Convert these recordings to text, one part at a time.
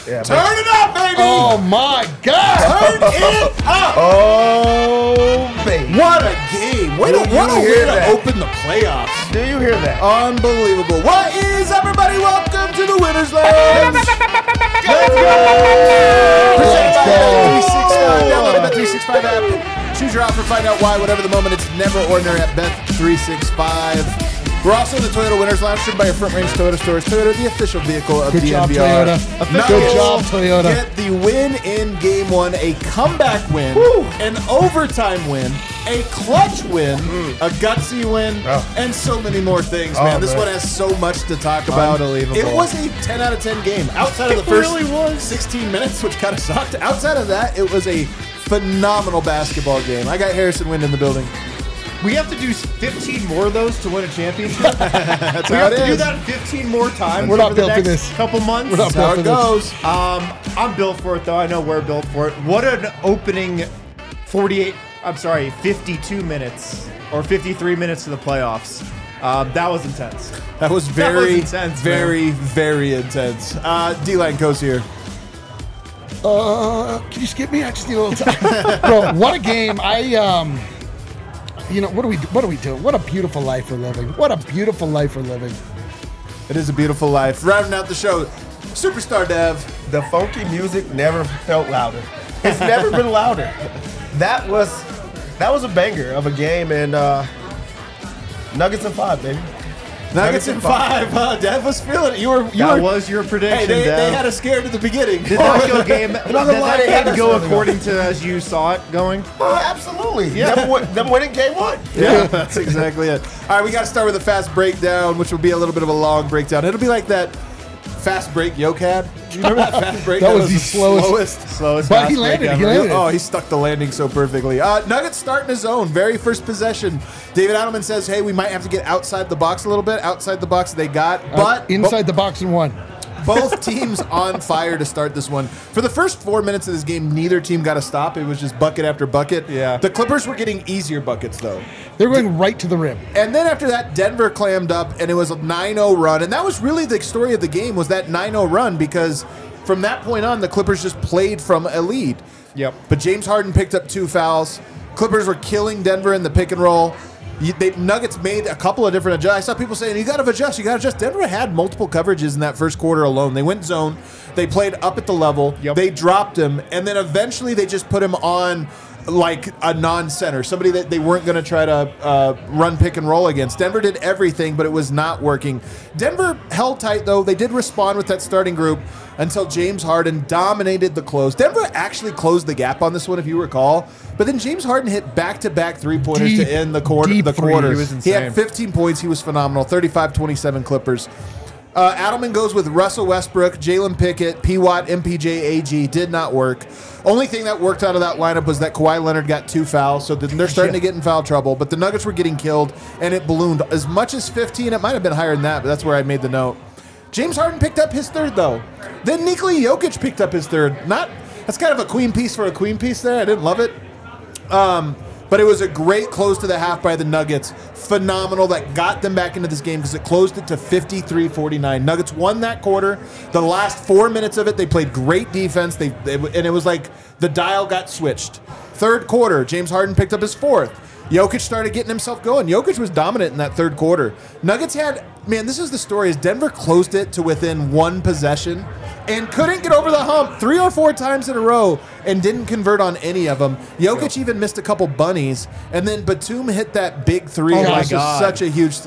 Yeah, Turn it up, baby! Oh my God! Turn it up! Oh, baby. What a game! What a way to open the playoffs! Do you hear that? Unbelievable! What is up, everybody? Welcome to the Winners Lounge. Let's go! Presented by Bet365. Download the Bet365 app. Choose your offer. Find out why. Whatever the moment, it's never ordinary at Bet365. We're also in the Toyota Winners Lounge, driven by your Front Range Toyota stores. Toyota, the official vehicle of Good job, DNVR. Toyota. Good job, Toyota. Get the win in Game 1, a comeback win, an overtime win, a clutch win, a gutsy win, and so many more things, man. This one has so much to talk about. Unbelievable. It was a 10 out of 10 game. Outside of the first 16 minutes, which kind of sucked. Outside of that, it was a phenomenal basketball game. I got Harrison Wind in the building. We have to do 15 more of those to win a championship. That's We how have it to do is. that 15 more times We're not over the built for next this. couple months. We're not That's how it built for this. goes. I'm built for it, though. I know we're built for it. What an opening 52 minutes or 53 minutes to the playoffs. That was intense. That was That was very, intense, very, very intense. D-Line Coast here. Can you skip me? I just need a little time. Bro, what a game. What do we do? What a beautiful life we're living. What a beautiful life we're living. It is a beautiful life. Rounding out the show, Superstar Dev. The funky music never felt louder. It's never been louder. That was a banger of a game, and Nuggets in 5, baby. Nuggets in 5. Dev was feeling it. That was your prediction, Hey, they Dev. had us scared at the beginning. Did that go game? I'm not gonna lie, they had Did that us go on the according to as you saw it going? Absolutely. Them winning game 1. Yeah, that's exactly it. All right, we got to start with a fast breakdown, which will be a little bit of a long breakdown. It'll be like that fast break Yoke had. Do you remember that fast break? That was the slowest. Slowest But he fast landed. break He ever. landed. Oh, he stuck the landing so perfectly. Nuggets starting his own. Very first possession. David Adelman says, hey, we might have to get outside the box a little bit. Outside the box they got. But Inside the box and one. both teams on fire to start this one. For the first 4 minutes of this game, neither team got a stop. It was just bucket after bucket. Yeah. The Clippers were getting easier buckets, though. They're going right to the rim. And then after that, Denver clammed up, and it was a 9-0 run. And that was really the story of the game, was that 9-0 run, because from that point on, the Clippers just played from a lead. Yep. But James Harden picked up 2 fouls. Clippers were killing Denver in the pick and roll. Nuggets made a couple of different adjustments. I saw people saying, you got to adjust. Denver had multiple coverages in that first quarter alone. They went zone. They played up at the level. Yep. They dropped him. And then eventually they just put him on like a non-center, somebody that they weren't going to try to run pick and roll against. Denver did everything, but it was not working. Denver held tight, though. They did respond with that starting group until James Harden dominated the close. Denver actually closed the gap on this one, if you recall. But then James Harden hit back-to-back three-pointers to end the quarter. Deep three. He was He had insane. 15 points. He was phenomenal. 35-27 Clippers. Adelman goes with Russell Westbrook, Jalen Pickett, P. Watt, MPJ, AG. Did not work. Only thing that worked out of that lineup was that Kawhi Leonard got 2 fouls, so they're starting to get in foul trouble. But the Nuggets were getting killed, and it ballooned as much as 15. It might have been higher than that, but that's where I made the note. James Harden picked up his third, though. Then Nikola Jokic picked up his third. That's kind of a queen piece for a queen piece there. I didn't love it. But it was a great close to the half by the Nuggets. Phenomenal. That got them back into this game because it closed it to 53-49. Nuggets won that quarter. The last 4 minutes of it, they played great defense. And it was like the dial got switched. Third quarter, James Harden picked up his fourth. Jokic started getting himself going. Jokic was dominant in that third quarter. Nuggets had, this is the story, is Denver closed it to within 1 possession and couldn't get over the hump 3 or 4 times in a row and didn't convert on any of them. Jokic even missed a couple bunnies, and then Batum hit that big 3. Oh It my was just God. such a huge,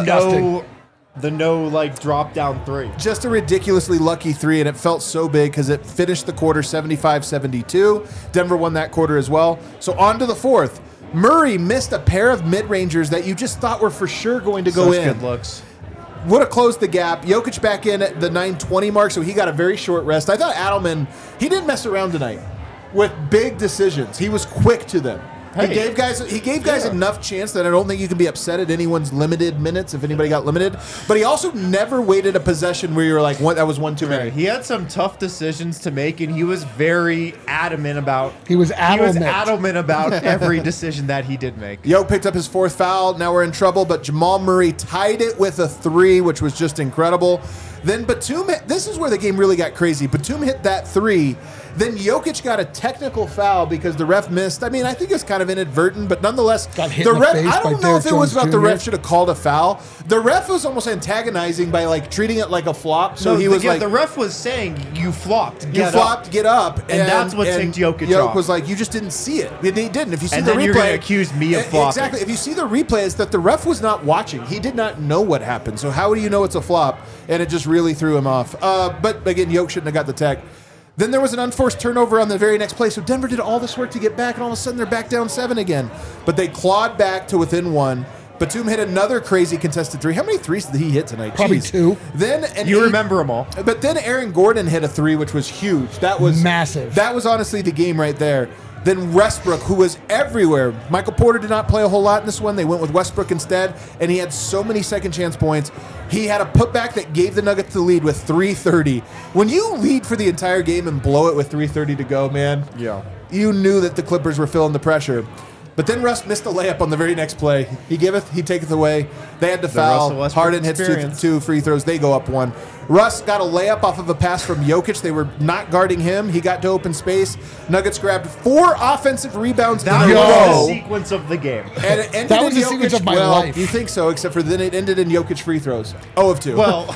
The no drop down 3. just a ridiculously lucky 3, and it felt so big because it finished the quarter 75-72. Denver won that quarter as well. So on to the fourth. Murray missed a pair of mid-rangers that you just thought were for sure going to go in. Good looks. Would have closed the gap. Jokic back in at the 9:20 mark, so he got a very short rest. I thought Adelman, he didn't mess around tonight with big decisions. He was quick to them. He gave guys enough chance that I don't think you can be upset at anyone's limited minutes if anybody got limited. But he also never waited a possession where you were like, "What? That was one too many." He had some tough decisions to make, and he was very adamant about. He was adamant about every decision that he did make. Yo picked up his fourth foul. Now we're in trouble, but Jamal Murray tied it with a 3, which was just incredible. Then Batum, this is where the game really got crazy. Batum hit that three. Then Jokic got a technical foul because the ref missed. I mean, I think it's kind of inadvertent, but nonetheless, Got hit the in the ref. face I by don't know if Derrick it was Jones about the Jr.. ref should have called a foul. The ref was almost antagonizing by like treating it like a flop. So he was like, the ref was saying you flopped. "You flopped, get up," And that's what ticked Jokic off. was like, "You just didn't see it." And he didn't. If you see And the then replay, you're gonna accuse me of flopping. Exactly. If you see the replay, it's that the ref was not watching. He did not know what happened. So how do you know it's a flop? And it just really threw him off. But again, Jokic shouldn't have got the tech. Then there was an unforced turnover on the very next play. So Denver did all this work to get back, and all of a sudden they're back down 7 again. But they clawed back to within 1. Batum hit another crazy contested three. How many threes did he hit tonight? Probably Jeez. 2. Then You remember them all. But then Aaron Gordon hit a 3, which was huge. That was Massive. That was honestly the game right there. Then Westbrook, who was everywhere. Michael Porter did not play a whole lot in this one. They went with Westbrook instead, and he had so many second chance points. He had a putback that gave the Nuggets the lead with 3:30. When you lead for the entire game and blow it with 3:30 to go, man, you knew that the Clippers were feeling the pressure. But then Russ missed a layup on the very next play. He giveth, he taketh away. They had to foul. Russell Westbrook Harden hits experience. two free throws. They go up 1. Russ got a layup off of a pass from Jokic. They were not guarding him. He got to open space. Nuggets grabbed 4 offensive rebounds That in a was row. the sequence of the game. And it ended That was in the sequence Jokic- of my well, life. You think so, except for then it ended in Jokic free throws. 0 of 2. Well,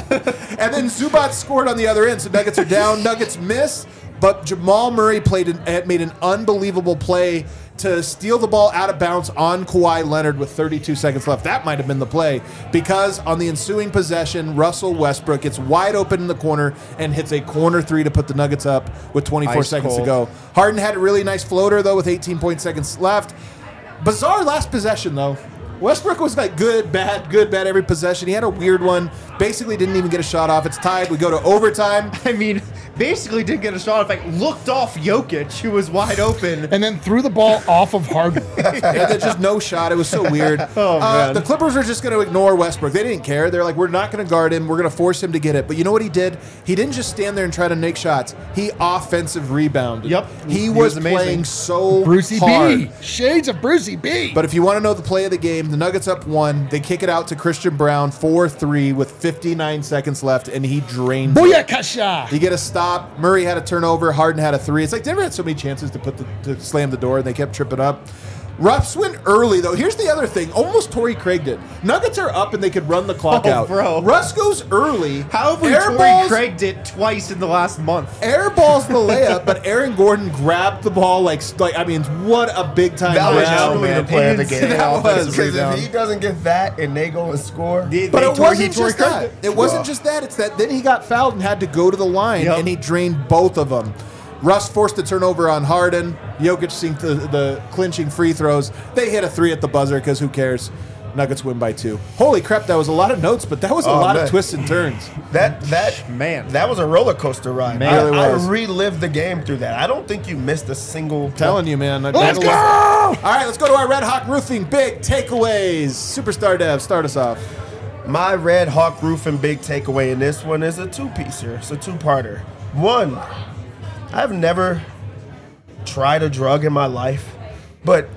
And then Zubac scored on the other end, so Nuggets are down. Nuggets miss, but Jamal Murray made an unbelievable play to steal the ball out of bounds on Kawhi Leonard with 32 seconds left. That might have been the play, because on the ensuing possession, Russell Westbrook gets wide open in the corner and hits a corner 3 to put the Nuggets up with 24 Ice seconds to cold. go. Harden had a really nice floater, though, with 18 seconds left. Bizarre last possession, though. Westbrook was like good, bad every possession. He had a weird one. Basically didn't even get a shot off. It's tied. We go to overtime. I mean, basically didn't get a shot. In fact, looked off Jokic, who was wide open. And then threw the ball off of Harden. And then just no shot. It was so weird. Man. The Clippers were just going to ignore Westbrook. They didn't care. They're like, we're not going to guard him. We're going to force him to get it. But you know what he did? He didn't just stand there and try to make shots. He offensive rebounded. Yep. He He was was amazing. playing so Brucey hard. B. Shades of Brucey B. But if you want to know the play of the game, the Nuggets up 1. They kick it out to Christian Brown, 4-3 with 59 seconds left, and he drained it. Booyakasha. You get a stop. Murray had a turnover. Harden had a 3. It's like Denver had so many chances to slam the door, and they kept tripping up. Russ went early, though. Here's the other thing. Almost Torrey Craig did. Nuggets are up, and they could run the clock out. Bro. Russ goes early. How have we Torrey Craig did twice in the last month? Airballs the layup, but Aaron Gordon grabbed the ball like I mean, what a big time That was grab. truly the play of the game. That was. Because if he doesn't get that and they go and score, But it wasn't just that. It wasn't just that. It's that then he got fouled and had to go to the line, Yep. and he drained both of them. Russ forced the turnover on Harden. Jokic synced the clinching free throws. They hit a 3 at the buzzer because who cares? Nuggets win by 2. Holy crap, that was a lot of notes, but that was a lot man. of twists and turns. that was a roller coaster ride. Man. It really I was. relived the game through that. I don't think you missed a single. Telling you, man. Let's go! All right, let's go to our Red Hawk Roofing big takeaways. Superstar Dev, start us off. My Red Hawk Roofing big takeaway in this one is a 2-piecer. It's a 2-parter. 1, I've never tried a drug in my life, but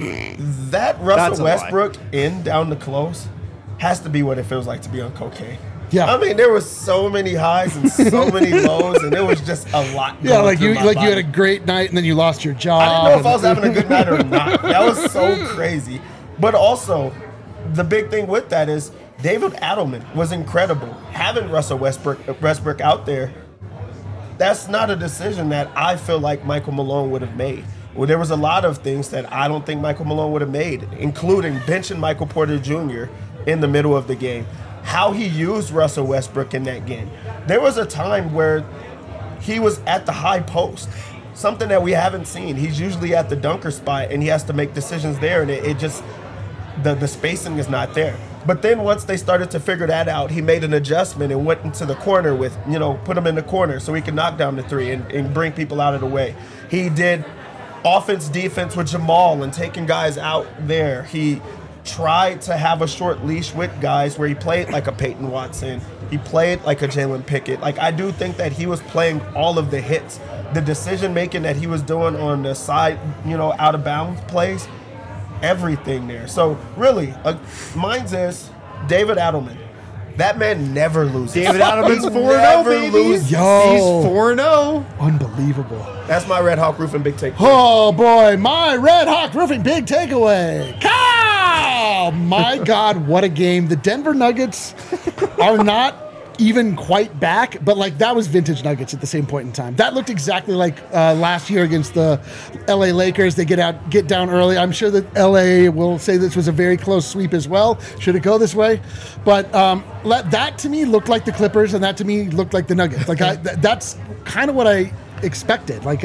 that That's Russell a lie. Westbrook in down the close has to be what it feels like to be on cocaine. Yeah. I mean, there was so many highs and so many lows, and it was just a lot. Yeah, going like through you my like you had body. a great night and then you lost your job. I didn't know if I was and- having a good night or not. That was so crazy. But also, the big thing with that is David Adelman was incredible. Having Russell Westbrook out there, that's not a decision that I feel like Michael Malone would have made. Well, there was a lot of things that I don't think Michael Malone would have made, including benching Michael Porter Jr. in the middle of the game. How he used Russell Westbrook in that game. There was a time where he was at the high post, something that we haven't seen. He's usually at the dunker spot, and he has to make decisions there, and it just, the spacing is not there. But then once they started to figure that out, he made an adjustment and went into the corner with, put him in the corner so he could knock down the 3 and bring people out of the way. He did offense, defense with Jamal and taking guys out there. He tried to have a short leash with guys where he played like a Peyton Watson. He played like a Jalen Pickett. Like, I do think that he was playing all of the hits. The decision making that he was doing on the side, out of bounds plays, everything there. So really, mine's is David Adelman. That man never loses. David Adelman's He 4-0, never baby. loses. Yo. He's 4-0. Unbelievable. That's my Red Hawk Roofing big take. Oh boy, my Red Hawk Roofing big takeaway. Cow! My God, what a game. The Denver Nuggets are not even quite back, but like that was vintage Nuggets at the same point in time. That looked exactly like last year against the LA Lakers. They get down early. I'm sure that LA will say this was a very close sweep as well. Should it go this way? But that to me looked like the Clippers, and that to me looked like the Nuggets. Like that's kind of what I expected. Like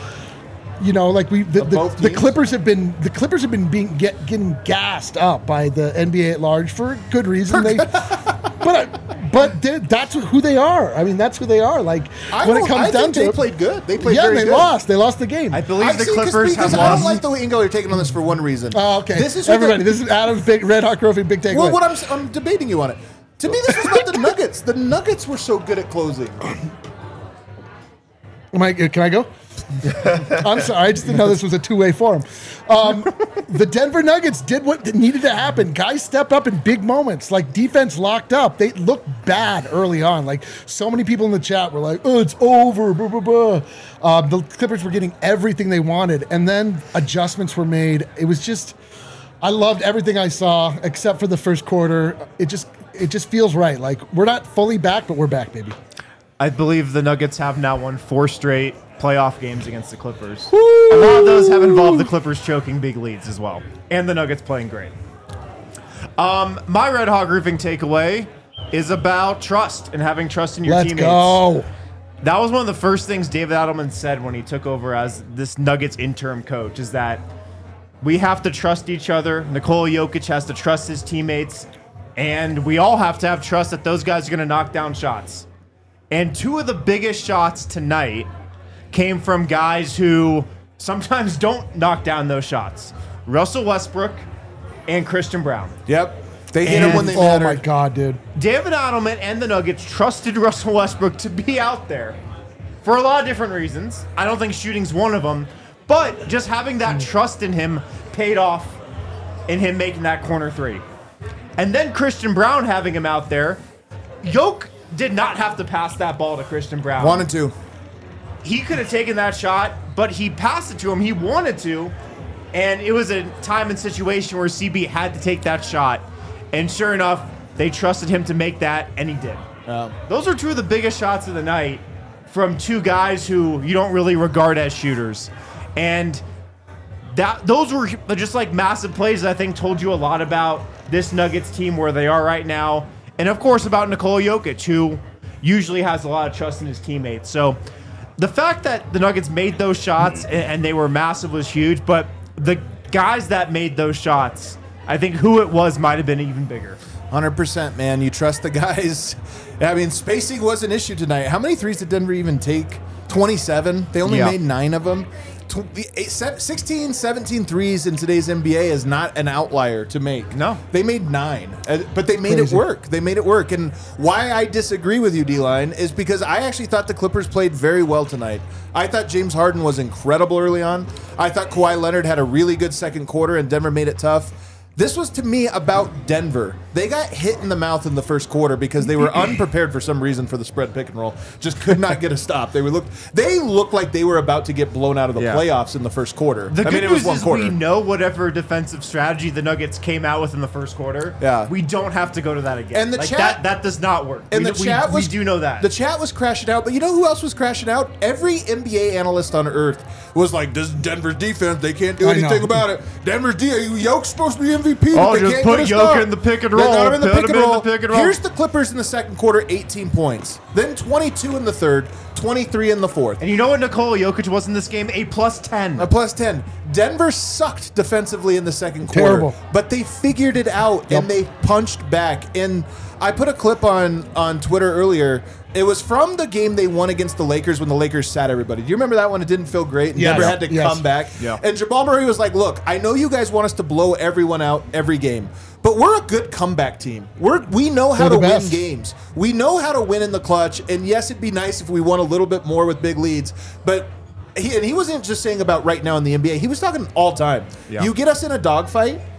the Clippers have been getting gassed up by the NBA at large for good reason. But that's who they are. I mean, that's who they are. Like when it comes down to they it, played good. They played yeah, very they good. lost. They lost the game. I believe the see, Clippers have because I don't lost. like the way Ingo you're taking on this for one reason. Oh, okay. This is everybody. This is Adam's big Red Hawk Trophy big takeaway. Well, what I'm debating you on it. To me, this was about the Nuggets. The Nuggets were so good at closing. Can I go? I'm sorry. I just didn't know this was a two-way forum. The Denver Nuggets did what needed to happen. Guys stepped up in big moments. Like defense locked up. They looked bad early on. Like so many people in the chat were like, "Oh, it's over." Blah, blah, blah. The Clippers were getting everything they wanted, and then adjustments were made. It was just, I loved everything I saw except for the first quarter. It just feels right. Like we're not fully back, but we're back, baby. I believe the Nuggets have now won 4 straight playoff games against the Clippers. A lot of those have involved the Clippers choking big leads as well, and the Nuggets playing great. My Red Hawk Roofing takeaway is about trust and having trust in your Let's teammates. go. That was one of the first things David Adelman said when he took over as this Nuggets interim coach, is that we have to trust each other. Nikola Jokic has to trust his teammates, and we all have to have trust that those guys are going to knock down shots. And 2 of the biggest shots tonight came from guys who sometimes don't knock down those shots. Russell Westbrook and Christian Brown. Yep. They hit them when they Oh mattered. my God, dude. David Adelman and the Nuggets trusted Russell Westbrook to be out there for a lot of different reasons. I don't think shooting's one of them, but just having that trust in him paid off in him making that corner 3. And then Christian Brown having him out there. Jokic did not have to pass that ball to Christian Brown. Wanted to. He could have taken that shot, but he passed it to him. He wanted to, and it was a time and situation where CB had to take that shot. And sure enough, they trusted him to make that, and he did. Those are 2 of the biggest shots of the night from 2 guys who you don't really regard as shooters. And those were just like massive plays that I think told you a lot about this Nuggets team, where they are right now. And of course about Nikola Jokic, who usually has a lot of trust in his teammates. So the fact that the Nuggets made those shots and they were massive was huge, but the guys that made those shots, I think who it was might have been even bigger. 100%, man. You trust the guys. I mean, spacing was an issue tonight. How many threes did Denver even take? 27. They only made 9 of them. 16, 17 threes in today's NBA is not an outlier to make. No. They made 9, but they made it work. They made it work. And why I disagree with you, D-Line, is because I actually thought the Clippers played very well tonight. I thought James Harden was incredible early on. I thought Kawhi Leonard had a really good second quarter, and Denver made it tough. This was, to me, about Denver. They got hit in the mouth in the first quarter because they were unprepared for some reason for the spread pick and roll. Just could not get a stop. They looked like they were about to get blown out of the playoffs in the first quarter. The good it was news one is quarter. we know whatever defensive strategy the Nuggets came out with in the first quarter. Yeah. We don't have to go to that again. And the like chat- that does not work. And we, the chat we was, do know that. The chat was crashing out, but you know who else was crashing out? Every NBA analyst on earth was like, "This is Denver's defense. They can't do anything about it. Denver's Jokic supposed to be MVP, but they just can't put get a Jokic stop. in the pick and They roll. got him in the Put pick him and in roll. the pick and roll. Here's the Clippers in the second quarter, 18 points. Then 22 in the third, 23 in the fourth. And you know what Nikola Jokic was in this game? A +10. A +10. Denver sucked defensively in the second quarter. Terrible. But they figured it out, and they punched back. And I put a clip on Twitter earlier. It was from the game they won against the Lakers when the Lakers sat everybody. Do you remember that one? It didn't feel great. And Yes. Denver had to Yes. come back. Yeah. And Jamal Murray was like, look, I know you guys want us to blow everyone out every game, but we're a good comeback team. We know how to We're the win best. games. We know how to win in the clutch. And yes, it'd be nice if we won a little bit more with big leads, but he wasn't just saying about right now in the NBA. He was talking all time. Yeah. You get us in a dogfight,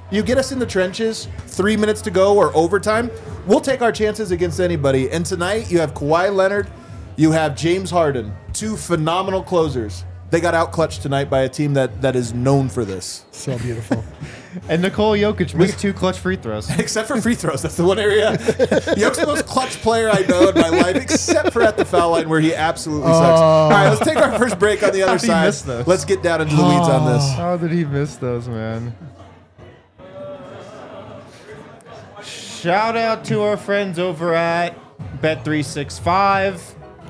You get us in the trenches, 3 minutes to go or overtime, we'll take our chances against anybody. And tonight you have Kawhi Leonard, you have James Harden, 2 phenomenal closers. They got out-clutched tonight by a team that is known for this. So beautiful. And Nikola Jokic missed 2 clutch free throws. Except for free throws. That's the one area. Jokic's the most clutch player I know in my life, except for at the foul line where he absolutely sucks. All right, let's take our first break on the other How did he side. miss those? Let's get down into the weeds on this. How did he miss those, man? Shout out to our friends over at Bet365.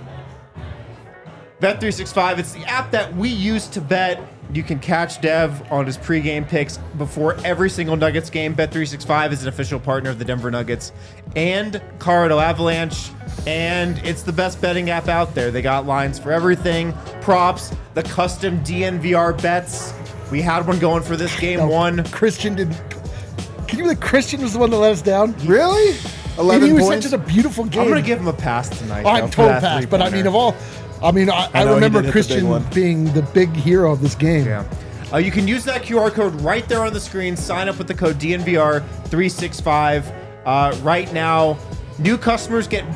Bet365, it's the app that we use to bet. You can catch Dev on his pregame picks before every single Nuggets game. Bet365 is an official partner of the Denver Nuggets and Colorado Avalanche, and it's the best betting app out there. They got lines for everything, props, the custom DNVR bets. We had one going for this game one. Christian didn't. Can you believe Christian was the one that let us down? Really? And 11 he was points? such a beautiful game. I'm going to give him a pass tonight. Oh, I'm though, for total that pass, but I mean, three-pointer. I know, he remember did hit the big Christian one. being the big hero of this game. Yeah. You can use that QR code right there on the screen. Sign up with the code DNVR365 right now. New customers get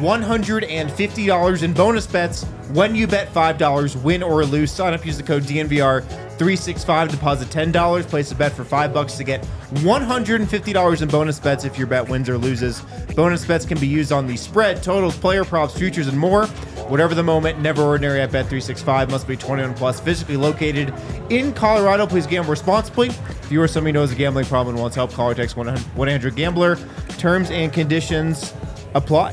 $150 in bonus bets when you bet $5, win or lose. Sign up, use the code DNVR365, deposit $10, place a bet for $5 to get $150 in bonus bets if your bet wins or loses. Bonus bets can be used on the spread, totals, player props, futures, and more. Whatever the moment, never ordinary at Bet365. Must be 21 plus, physically located in Colorado. Please gamble responsibly. If you or somebody knows a gambling problem and wants help, call or text 1-800-GAMBLER. Terms and conditions apply.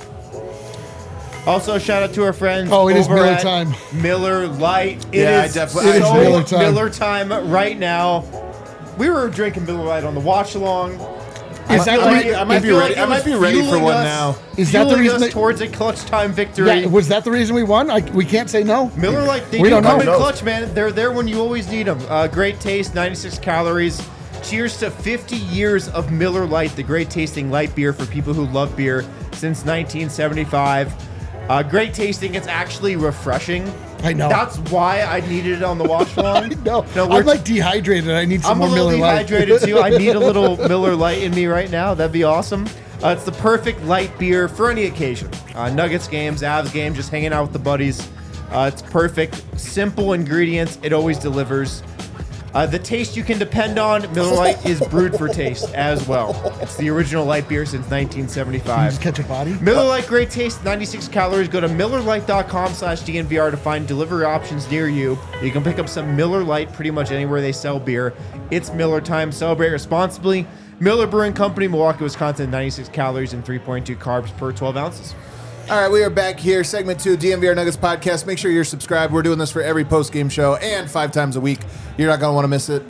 Also, shout out to our friends. Oh, it is over Miller at time. Miller Lite. Yeah, It is I definitely- it is so Miller time. Miller time right now. We were drinking Miller Lite on the watch along. Is that I might be ready. I might be ready for one now. Is that the reason us that- towards a clutch time victory? Yeah, was that the reason we won? We can't say no. Miller Lite, they We do don't come know. in clutch, man. They're there when you always need them. Great taste, 96 calories. Cheers to 50 years of Miller Lite, the great tasting light beer for people who love beer since 1975. Great tasting. It's actually refreshing. I know. That's why I needed it on the watch along. No, we're- I'm like dehydrated. I need some I'm more a little Miller Lite. dehydrated too. I need a little Miller Lite in me right now. That'd be awesome. It's the perfect light beer for any occasion. Nuggets games, Avs game, just hanging out with the buddies. It's perfect. Simple ingredients. It always delivers. The taste you can depend on. Miller Lite is brewed for taste as well. It's the original light beer since Can you 1975. just catch a body? Miller Lite, great taste, 96 calories. Go to MillerLite.com/DNVR to find delivery options near you. You can pick up some Miller Lite pretty much anywhere they sell beer. It's Miller time. Celebrate responsibly. Miller Brewing Company, Milwaukee, Wisconsin, 96 calories and 3.2 carbs per 12 ounces. All right, we are back here. Segment 2, DNVR Nuggets podcast. Make sure you're subscribed. We're doing this for every post-game show and 5 times a week. You're not going to want to miss it.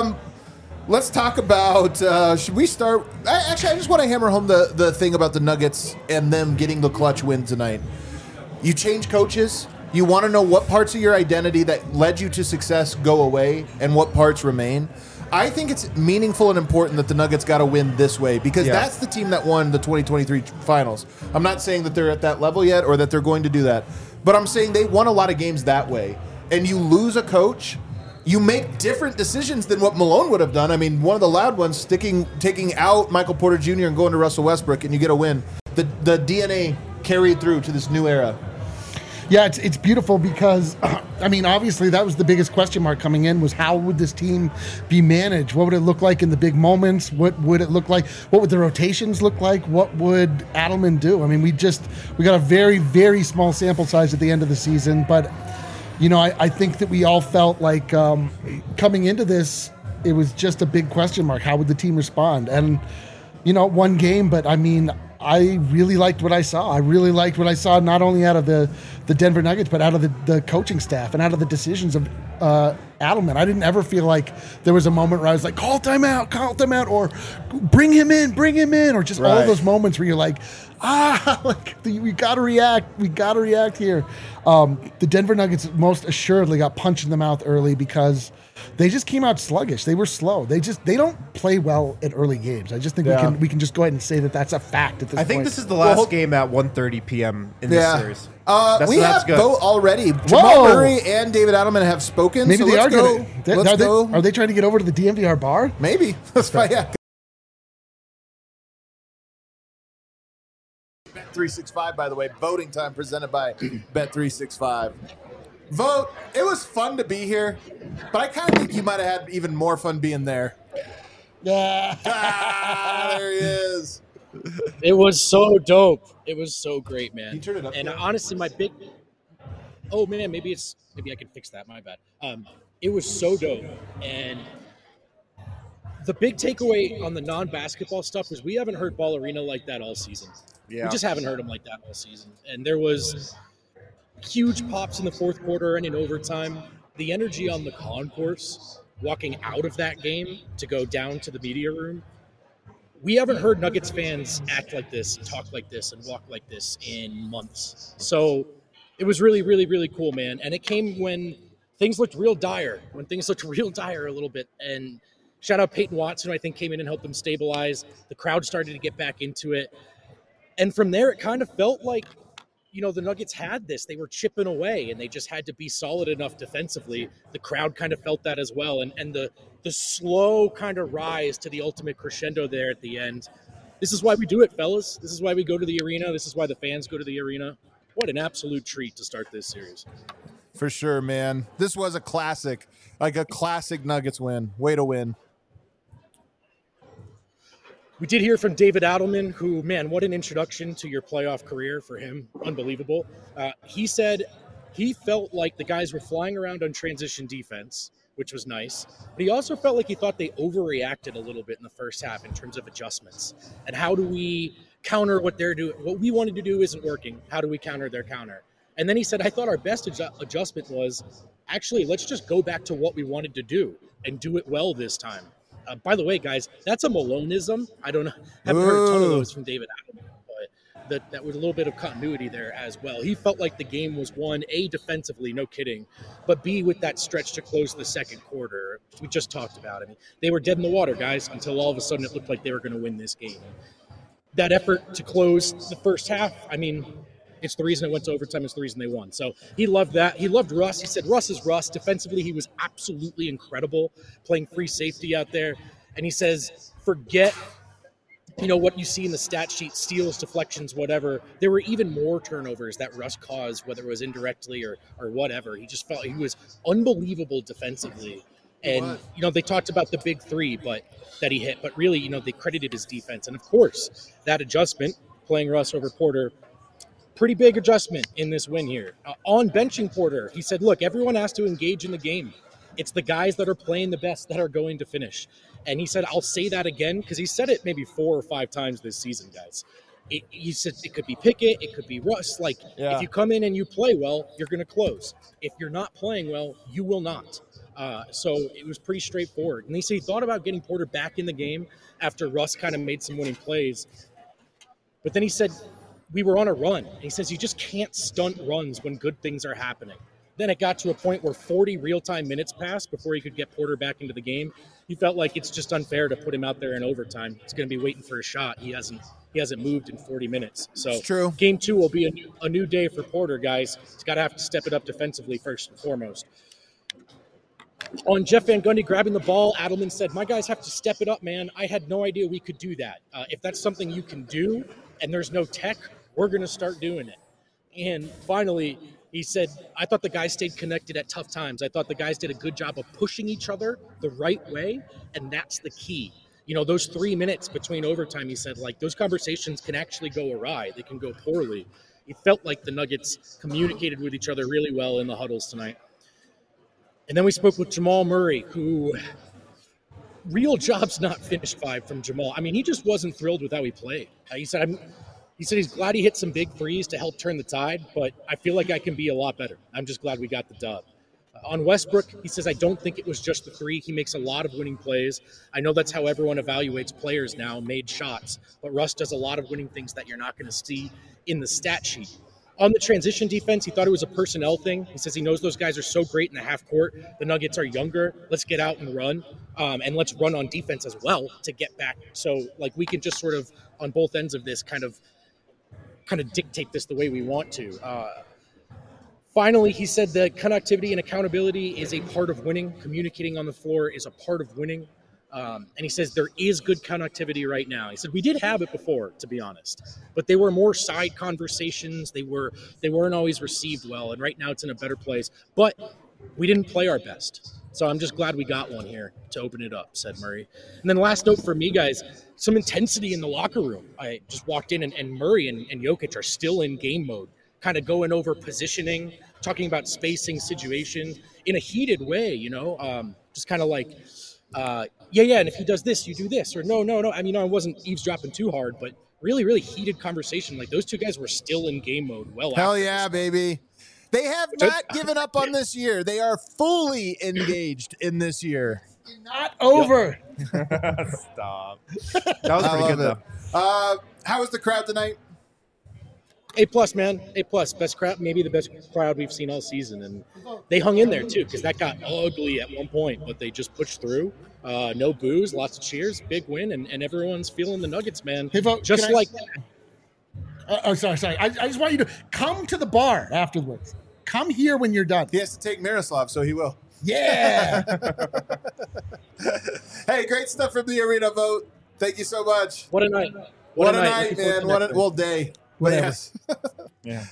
Let's talk about, should we start? I just want to hammer home the thing about the Nuggets and them getting the clutch win tonight. You change coaches. You want to know what parts of your identity that led you to success go away and what parts remain. I think it's meaningful and important that the Nuggets got to win this way because Yeah. that's the team that won the 2023 finals. I'm not saying that they're at that level yet or that they're going to do that, but I'm saying they won a lot of games that way. And you lose a coach, you make different decisions than what Malone would have done. I mean, one of the loud ones, taking out Michael Porter Jr. and going to Russell Westbrook, and you get a win. The DNA carried through to this new era. Yeah, it's beautiful because, I mean, obviously that was the biggest question mark coming in was how would this team be managed? What would it look like in the big moments? What would it look like? What would the rotations look like? What would Adelman do? I mean, we got a very, very small sample size at the end of the season, but, you know, I think that we all felt like coming into this, it was just a big question mark. How would the team respond? And, you know, one game, but I mean, I really liked what I saw. I really liked what I saw not only out of the Denver Nuggets, but out of the coaching staff and out of the decisions of Adelman. I didn't ever feel like there was a moment where I was like, call timeout, or bring him in, or just all of those moments where you're like, like we got to react here. The Denver Nuggets most assuredly got punched in the mouth early because they just came out sluggish. They were slow. They don't play well at early games. I just think we can just go ahead and say that that's a fact at this point. I think this is the last game at 1:30 p.m. in this series. We that's have good. vote already. Jamal Whoa. Murray and David Adelman have spoken. Maybe so they are let's go. going to. Let's go. Are they trying to get over to the DMVR bar? Maybe. Let's find out. Bet365, by the way, voting time presented by Bet365. Vote. It was fun to be here, but I kind of think you might have had even more fun being there. Yeah. There he is. It was so dope. It was so great, man. Can you turn it up And there? honestly, oh man, maybe I can fix that. My bad. It was so dope. And the big takeaway on the non-basketball stuff is we haven't heard Ball Arena like that all season. Yeah. We just haven't heard him like that all season. And there was huge pops in the fourth quarter and in overtime. The energy on the concourse, walking out of that game to go down to the media room, we haven't heard Nuggets fans act like this, talk like this, and walk like this in months. So it was really, really, really cool, man. And it came when things looked real dire, a little bit. And shout out Peyton Watson, who I think came in and helped them stabilize. The crowd started to get back into it. And from there, it kind of felt like, the Nuggets had this. They were chipping away, and they just had to be solid enough defensively. The crowd kind of felt that as well. And the slow kind of rise to the ultimate crescendo there at the end. This is why we do it, fellas. This is why we go to the arena. This is why the fans go to the arena. What an absolute treat to start this series. For sure, man. This was a classic, like a classic Nuggets win. Way to win. We did hear from David Adelman, who, man, what an introduction to your playoff career for him. Unbelievable. He said he felt like the guys were flying around on transition defense, which was nice. But he also felt like he thought they overreacted a little bit in the first half in terms of adjustments. And how do we counter what they're doing? What we wanted to do isn't working. How do we counter their counter? And then he said, I thought our best adjustment was, actually, let's just go back to what we wanted to do and do it well this time. By the way, guys, that's a Maloneism. I haven't heard a ton of those from David Adelman, but that was a little bit of continuity there as well. He felt like the game was won, A, defensively, no kidding, but B, with that stretch to close the second quarter. We just talked about it. I mean, they were dead in the water, guys, until all of a sudden it looked like they were going to win this game. That effort to close the first half, I mean, it's the reason it went to overtime. It's the reason they won. So he loved that. He loved Russ. He said Russ is Russ. Defensively, he was absolutely incredible, playing free safety out there. And he says, forget, what you see in the stat sheet, steals, deflections, whatever. There were even more turnovers that Russ caused, whether it was indirectly or whatever. He just felt he was unbelievable defensively. And, they talked about the big three that he hit. But really, they credited his defense. And, of course, that adjustment, playing Russ over Porter, pretty big adjustment in this win here. On benching Porter, he said, look, everyone has to engage in the game. It's the guys that are playing the best that are going to finish. And he said, I'll say that again, because he said it maybe 4 or 5 times this season, guys. He said it could be Pickett, it could be Russ. If you come in and you play well, you're going to close. If you're not playing well, you will not. So it was pretty straightforward. And he said he thought about getting Porter back in the game after Russ kind of made some winning plays. But then he said, we were on a run. And he says you just can't stunt runs when good things are happening. Then it got to a point where 40 real-time minutes passed before he could get Porter back into the game. He felt like it's just unfair to put him out there in overtime. He's going to be waiting for a shot. He hasn't moved in 40 minutes. So it's true. Game 2 will be a new day for Porter, guys. He's got to have to step it up defensively first and foremost. On Jeff Van Gundy grabbing the ball, Adelman said, my guys have to step it up, man. I had no idea we could do that. If that's something you can do and there's no tech, we're going to start doing it. And finally, he said, I thought the guys stayed connected at tough times. I thought the guys did a good job of pushing each other the right way, and that's the key. Those 3 minutes between overtime, he said, those conversations can actually go awry. They can go poorly. He felt like the Nuggets communicated with each other really well in the huddles tonight. And then we spoke with Jamal Murray, who real job's not finished 5 from Jamal. I mean, he just wasn't thrilled with how he played. He said he's glad he hit some big threes to help turn the tide, but I feel like I can be a lot better. I'm just glad we got the dub. On Westbrook, he says, I don't think it was just the three. He makes a lot of winning plays. I know that's how everyone evaluates players now, made shots, but Russ does a lot of winning things that you're not going to see in the stat sheet. On the transition defense, he thought it was a personnel thing. He says he knows those guys are so great in the half court. The Nuggets are younger. Let's get out and run, and let's run on defense as well to get back. So, we can just sort of, on both ends of this, kind of dictate this the way we want to. Finally, he said that connectivity and accountability is a part of winning. Communicating on the floor is a part of winning. And he says there is good connectivity right now. He said we did have it before, to be honest, but they were more side conversations. They weren't always received well, and right now it's in a better place. But we didn't play our best. So I'm just glad we got one here to open it up, said Murray. And then last note for me, guys, some intensity in the locker room. I just walked in, and Murray and Jokic are still in game mode, kind of going over positioning, talking about spacing situations in a heated way, just kind of like, and if he does this, you do this, or no. I mean, I wasn't eavesdropping too hard, but really, really heated conversation. Like those two guys were still in game mode. Hell yeah, baby. They have not given up on this year. They are fully engaged in this year. Not over. Stop. That was pretty good, though. How was the crowd tonight? A+, man. A+. Best crowd, maybe the best crowd we've seen all season. And they hung in there, too, because that got ugly at one point, but they just pushed through. No boos, lots of cheers, big win, and everyone's feeling the Nuggets, man. Hey, Vo, just like that. Sorry. I just want you to come to the bar afterwards. Come here when you're done. He has to take Miroslav, so he will. Yeah. Hey, great stuff from the arena, Vote. Thank you so much. What a night. What a night, man. What a day. Whatever. Yes. Yeah.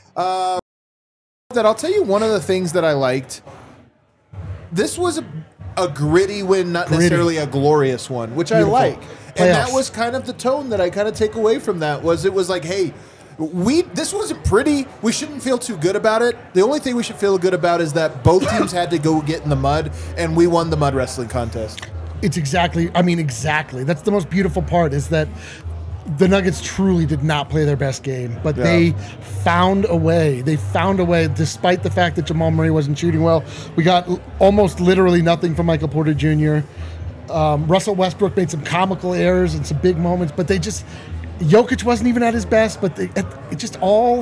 I'll tell you one of the things that I liked. This was a gritty win, not necessarily a glorious one, which Beautiful. I like. Playoffs. And that was kind of the tone that I kind of take away from that was it was like, hey, this wasn't pretty. We shouldn't feel too good about it. The only thing we should feel good about is that both teams had to go get in the mud, and we won the mud wrestling contest. It's exactly. That's the most beautiful part is that the Nuggets truly did not play their best game, but they found a way. They found a way, despite the fact that Jamal Murray wasn't shooting well. We got almost literally nothing from Michael Porter Jr. Russell Westbrook made some comical errors and some big moments, but Jokic wasn't even at his best, but they just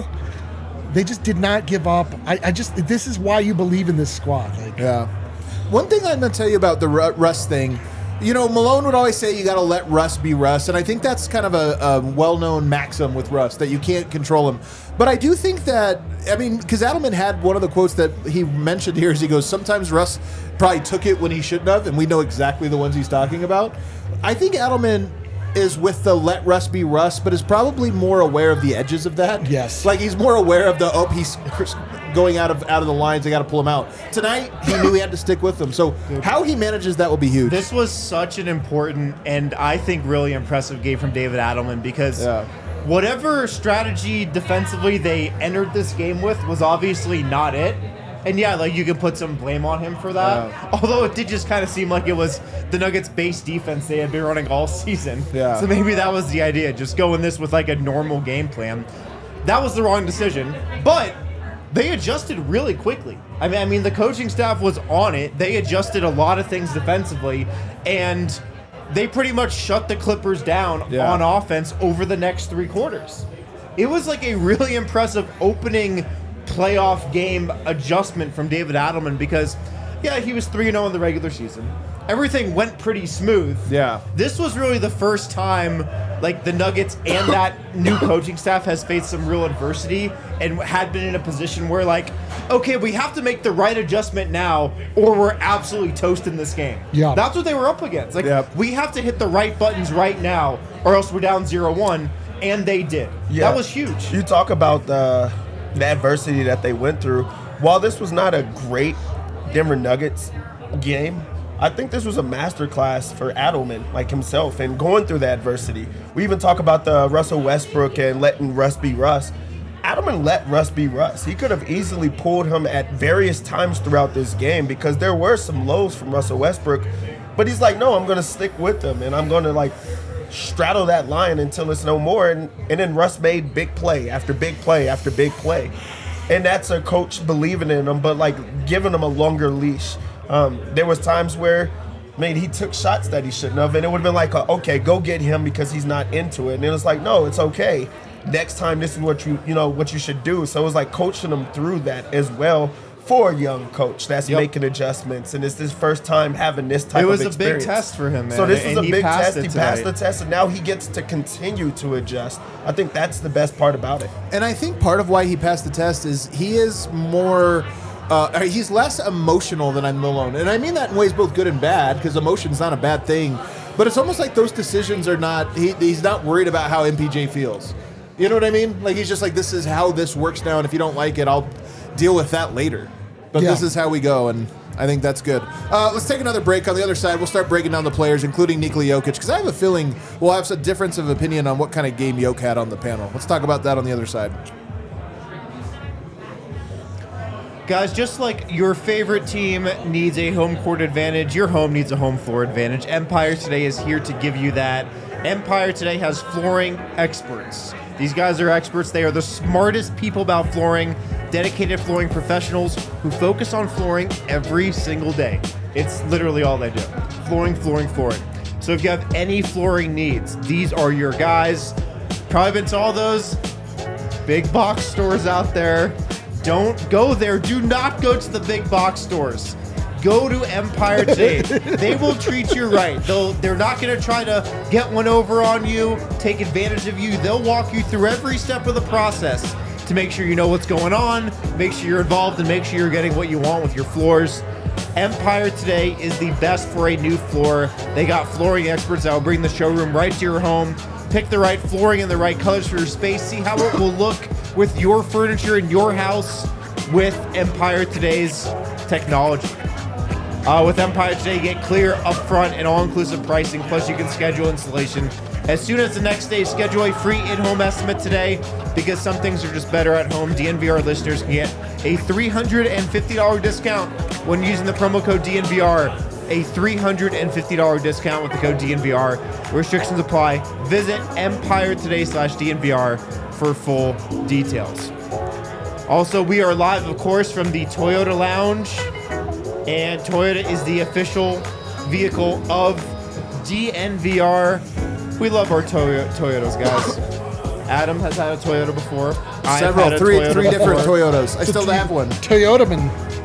did not give up. This is why you believe in this squad. One thing I'm going to tell you about the Russ thing, Malone would always say you got to let Russ be Russ, and I think that's kind of a well-known maxim with Russ, that you can't control him. But I do think that, because Adelman had one of the quotes that he mentioned here is he goes, sometimes Russ probably took it when he shouldn't have, and we know exactly the ones he's talking about. I think Adelman is with the let Russ be Russ, but is probably more aware of the edges of that. Yes. Like he's more aware of he's going out of the lines, they got to pull him out. Tonight, he knew he had to stick with them. So how he manages that will be huge. This was such an important and I think really impressive game from David Adelman because whatever strategy defensively they entered this game with was obviously not it. And you can put some blame on him for that. Yeah. Although it did just kind of seem like it was the Nuggets' base defense they had been running all season. Yeah. So maybe that was the idea, just go in this with like a normal game plan. That was the wrong decision, but they adjusted really quickly. I mean, the coaching staff was on it. They adjusted a lot of things defensively, and they pretty much shut the Clippers down on offense over the next 3 quarters. It was like a really impressive opening playoff game adjustment from David Adelman because, he was 3-0 in the regular season. Everything went pretty smooth. Yeah. This was really the first time, the Nuggets and that new coaching staff has faced some real adversity and had been in a position where, okay, we have to make the right adjustment now or we're absolutely toasting this game. Yeah. That's what they were up against. We have to hit the right buttons right now or else we're down 0-1, and they did. Yeah. That was huge. You talk about the adversity that they went through. While this was not a great Denver Nuggets game, I think this was a masterclass for Adelman, himself, and going through the adversity. We even talk about the Russell Westbrook and letting Russ be Russ. Adelman let Russ be Russ. He could have easily pulled him at various times throughout this game because there were some lows from Russell Westbrook, but he's like, no, I'm going to stick with him, and I'm going to, straddle that line until it's no more. And then Russ made big play after big play after big play. And that's a coach believing in him, but giving him a longer leash. There was times where, he took shots that he shouldn't have, and it would have been okay, go get him because he's not into it. And it was no, it's okay. Next time, this is what you should do. So it was coaching him through that as well for a young coach that's Yep. making adjustments, and it's his first time having this type It of was a experience. big test for him, man. So this is and a he big passed test. it He passed tonight. the test, and now he gets to continue to adjust. I think that's the best part about it. And I think part of why he passed the test is he is more. He's less emotional than Malone, and I mean that in ways both good and bad, because emotion's not a bad thing. But it's almost like those decisions are not. He's not worried about how MPJ feels. You know what I mean? Like he's just like, this is how this works now, and if you don't like it, I'll deal with that later. But Yeah. this is how we go, and I think that's good. Let's take another break. On the other side, we'll start breaking down the players, including Nikola Jokic, because I have a feeling we'll have some difference of opinion on what kind of game Jokic had on the panel. Let's talk about that on the other side. Guys, just like your favorite team needs a home court advantage, your home needs a home floor advantage. Empire Today is here to give you that. Empire Today has flooring experts. These guys are experts. They are the smartest people about flooring, dedicated flooring professionals who focus on flooring every single day. It's literally all they do. Flooring, flooring, flooring. So if you have any flooring needs, these are your guys. Probably been to all those big box stores out there. Don't go there. Do not go to the big box stores. Go to Empire Today. They will treat you right. They're not going to try to get one over on you, take advantage of you. They'll walk you through every step of the process to make sure you know what's going on, make sure you're involved, and make sure you're getting what you want with your floors. Empire Today is the best for a new floor. They got flooring experts that will bring the showroom right to your home. Pick the right flooring and the right colors for your space. See how it will look with your furniture in your house with Empire Today's technology. With Empire Today, you get clear, upfront, and all-inclusive pricing, plus you can schedule installation as soon as the next day. Schedule a free in-home estimate today, because some things are just better at home. DNVR listeners can get a $350 discount when using the promo code DNVR. A $350 discount with the code DNVR. Restrictions apply. Visit EmpireToday/DNVR for full details. Also, we are live, of course, from the Toyota Lounge. And Toyota is the official vehicle of DNVR. We love our Toyotas, guys. Adam has had a Toyota before. Three different Toyotas. I still have one. Toyota man.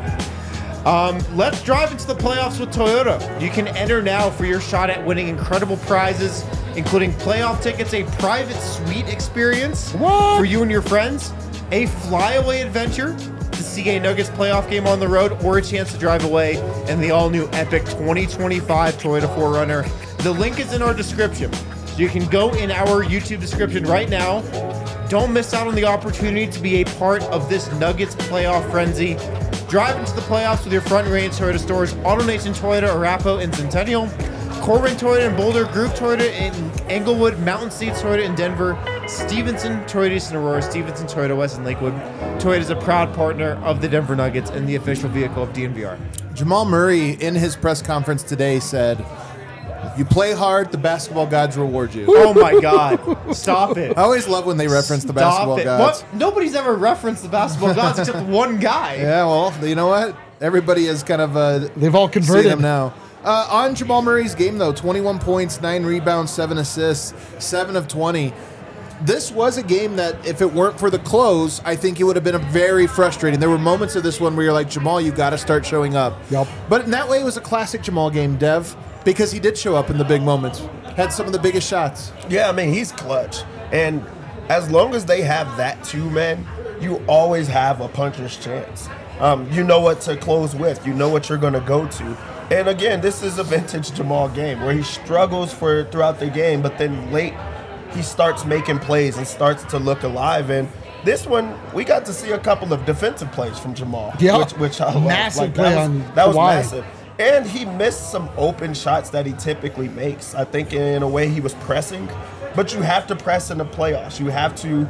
Let's drive into the playoffs with Toyota. You can enter now for your shot at winning incredible prizes, including playoff tickets, a private suite experience for you and your friends, a flyaway adventure to see a Nuggets playoff game on the road, or a chance to drive away in the all-new epic 2025 Toyota 4Runner. The link is in our description. So you can go in our YouTube description right now. Don't miss out on the opportunity to be a part of this Nuggets playoff frenzy. Drive into the playoffs with your front range Toyota stores: AutoNation Toyota, Arapahoe, and Centennial, Corbin Toyota in Boulder, Groove Toyota in Englewood, Mountain States Toyota in Denver, Stevenson Toyota East in Aurora, Stevenson Toyota West in Lakewood. Toyota is a proud partner of the Denver Nuggets and the official vehicle of DNVR. Jamal Murray, in his press conference today, said, "You play hard, the basketball gods reward you." Oh my God! Stop it! I always love when they reference the basketball gods. What? Nobody's ever referenced the basketball gods except one guy. Yeah, well, you know what? Everybody is kind of They've all seeing converted. him now. On Jamal Murray's game, though, 21 points, 9 rebounds, 7 assists, 7 of 20. This was a game that, if it weren't for the close, I think it would have been very frustrating. There were moments of this one where you're like, Jamal, you got to start showing up. Yep. But in that way, it was a classic Jamal game, Dev, because he did show up in the big moments. Had some of the biggest shots. Yeah, I mean, he's clutch. And as long as they have that too, man, you always have a puncher's chance. You know what to close with. You know what you're going to go to. And again, this is a vintage Jamal game where he struggles throughout the game, but then late he starts making plays and starts to look alive. And this one, we got to see a couple of defensive plays from Jamal, Yeah. which I love. Massive play on that was Kawhi. massive. And he missed some open shots that he typically makes. I think in a way he was pressing, but you have to press in the playoffs. You have to,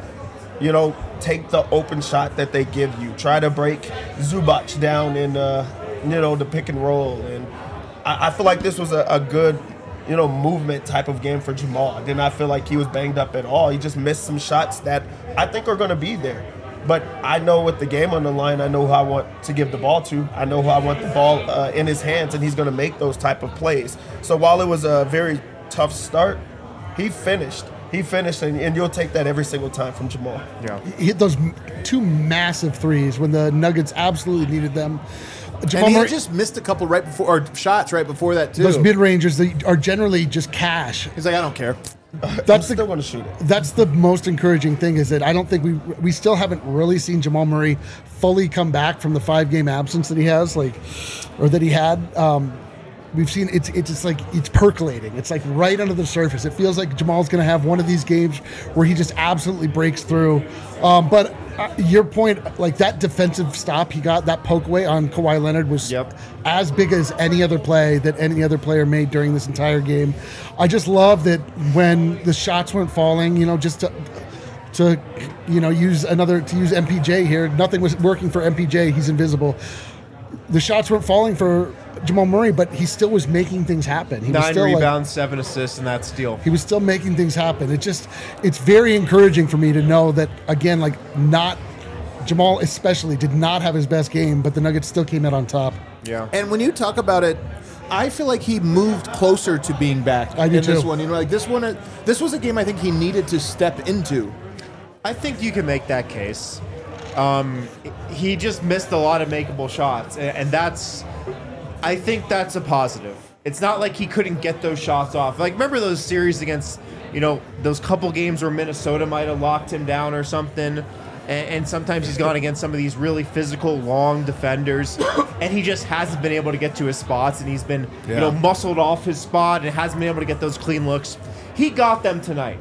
take the open shot that they give you. Try to break Zubac down in, the pick and roll. And I feel like this was a good, movement type of game for Jamal. I did not feel like he was banged up at all. He just missed some shots that I think are going to be there. But I know with the game on the line, I know who I want to give the ball to. I know who I want the ball in his hands, and he's going to make those type of plays. So while it was a very tough start, he finished. He finished, and you'll take that every single time from Jamal. Yeah. He hit those two massive threes when the Nuggets absolutely needed them. Jamal And he Murray, had just missed a couple right before, or shots right before that too. those mid-rangers that are generally just cash. He's like, I don't care. That's Still going to shoot it. That's the most encouraging thing, is that I don't think we still haven't really seen Jamal Murray fully come back from the 5-game absence that he has, or that he had. We've seen it's just like it's percolating. It's like right under the surface. It feels like Jamal's going to have one of these games where he just absolutely breaks through. But your point, like that defensive stop he got, that poke away on Kawhi Leonard was as big as any other play that any other player made during this entire game. I just love that when the shots weren't falling, just to use MPJ here. Nothing was working for MPJ. He's invisible. The shots weren't falling for Jamal Murray, but he still was making things happen. He was 9 still rebounds, 7 assists, and that steal. He was still making things happen. It's very encouraging for me to know that, again, Jamal especially did not have his best game, but the Nuggets still came out on top. Yeah. And when you talk about it, I feel like he moved closer to being back I do in this too. one. This was a game I think he needed to step into. I think you can make that case. He just missed a lot of makeable shots, and I think that's a positive. It's not like he couldn't get those shots off. Like, remember those series against, those couple games where Minnesota might have locked him down or something, and sometimes he's gone against some of these really physical, long defenders, and he just hasn't been able to get to his spots, and he's been, muscled off his spot and hasn't been able to get those clean looks. He got them tonight.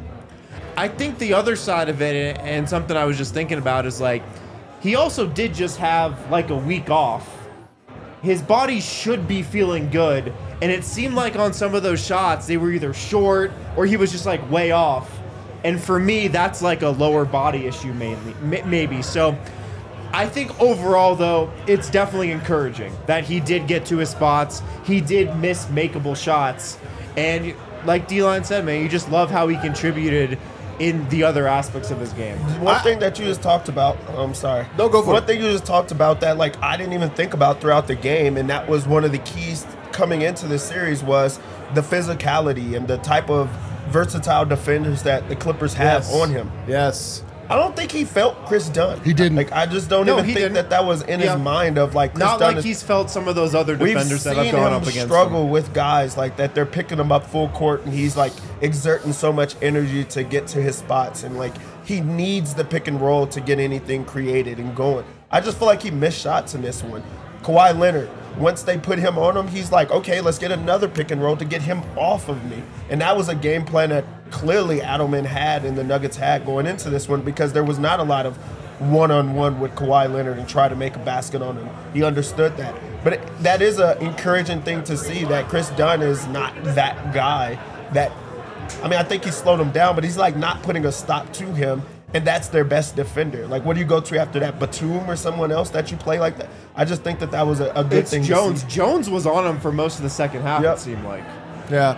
I think the other side of it, and something I was just thinking about, is he also did just have a week off. His body should be feeling good, and it seemed like on some of those shots they were either short or he was just way off. And for me, that's a lower body issue maybe. So I think overall, though, it's definitely encouraging that he did get to his spots. He did miss makeable shots, and like D-Line said, man, you just love how he contributed in the other aspects of his game. One thing that you just talked about, I'm sorry. No, go for it. One thing you just talked about that I didn't even think about throughout the game, and that was one of the keys coming into this series, was the physicality and the type of versatile defenders that the Clippers have on him. Yes. I don't think he felt Chris Dunn. He didn't. I just don't No, even he think didn't. that was in his mind of Chris Not Dunn like he's felt some of those other defenders that have gone up against struggle him. with guys like that. They're picking him up full court, and he's exerting so much energy to get to his spots, and he needs the pick and roll to get anything created and going. I just feel like he missed shots in this one. Kawhi Leonard, once they put him on him, he's like, okay, let's get another pick and roll to get him off of me. And that was a game plan that clearly Adelman had and the Nuggets had going into this one, because there was not a lot of one-on-one with Kawhi Leonard and try to make a basket on him. He understood that. But that is an encouraging thing to see, that Chris Dunn is not that guy that, I think he slowed him down, but he's not putting a stop to him. And that's their best defender. What do you go to after that? Batum or someone else that you play like that? I just think that was a good thing. It's Jones. To see. Jones was on him for most of the second half, Yep. it seemed like. Yeah.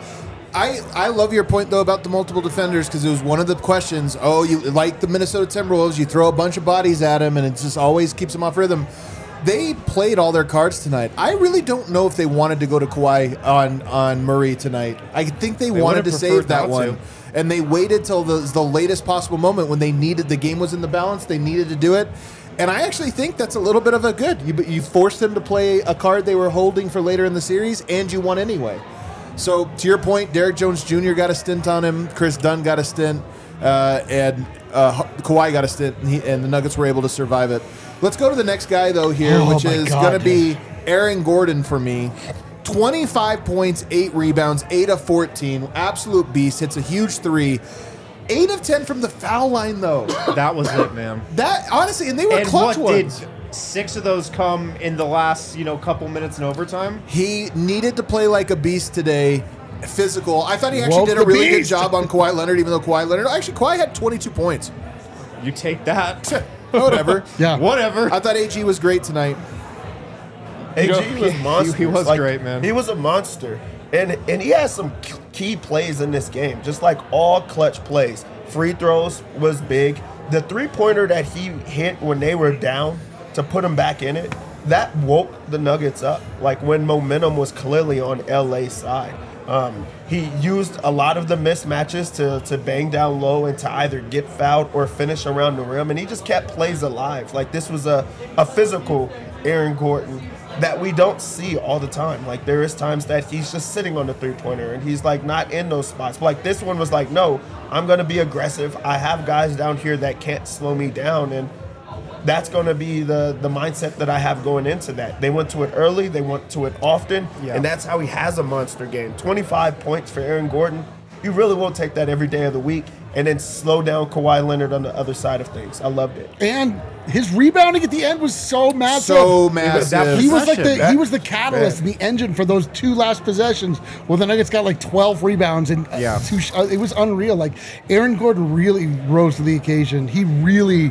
I love your point, though, about the multiple defenders, because it was one of the questions. Oh, you like the Minnesota Timberwolves, you throw a bunch of bodies at him, and it just always keeps them off rhythm. They played all their cards tonight. I really don't know if they wanted to go to Kawhi on Murray tonight. I think they wanted to save that one. And they waited till the latest possible moment when they needed, the game was in the balance, they needed to do it. And I actually think that's a little bit of a good. You forced them to play a card they were holding for later in the series, and you won anyway. So, to your point, Derek Jones Jr. got a stint on him, Chris Dunn got a stint, and Kawhi got a stint, and the Nuggets were able to survive it. Let's go to the next guy, though, here, which is going to be Aaron Gordon for me. 25 points, 8 rebounds, 8 of 14. Absolute beast. Hits a huge three. 8 of 10 from the foul line, though. That was it, man. That, honestly, and they were And clutch what ones. did 6 of those come in the last, couple minutes in overtime? He needed to play like a beast today. Physical. I thought he actually Woke did a the really good beast. job on Kawhi Leonard, even though Kawhi had 22 points. You take that. Whatever. Yeah. Whatever. I thought AG was great tonight. AG was monster. he was great, man. He was a monster. And he has some key plays in this game, just all clutch plays. Free throws was big. The three-pointer that he hit when they were down to put him back in it, that woke the Nuggets up, when momentum was clearly on LA's side. He used a lot of the mismatches to bang down low and to either get fouled or finish around the rim, and he just kept plays alive. Like, this was a physical Aaron Gordon that we don't see all the time. Like, there is times that he's just sitting on the three-pointer and he's like not in those spots. But like, this one was like, no, I'm going to be aggressive. I have guys down here that can't slow me down, and that's going to be the mindset that I have going into that. They went to it early. They went to it often. Yeah. And that's how he has a monster game. 25 points for Aaron Gordon. You really will take that every day of the week and then slow down Kawhi Leonard on the other side of things. I loved it. And his rebounding at the end was so massive. So massive. He was like Possession. he was the catalyst and the engine for those two last possessions. Well, the Nuggets got like 12 rebounds and Yeah. it was unreal. Like, Aaron Gordon really rose to the occasion. He really,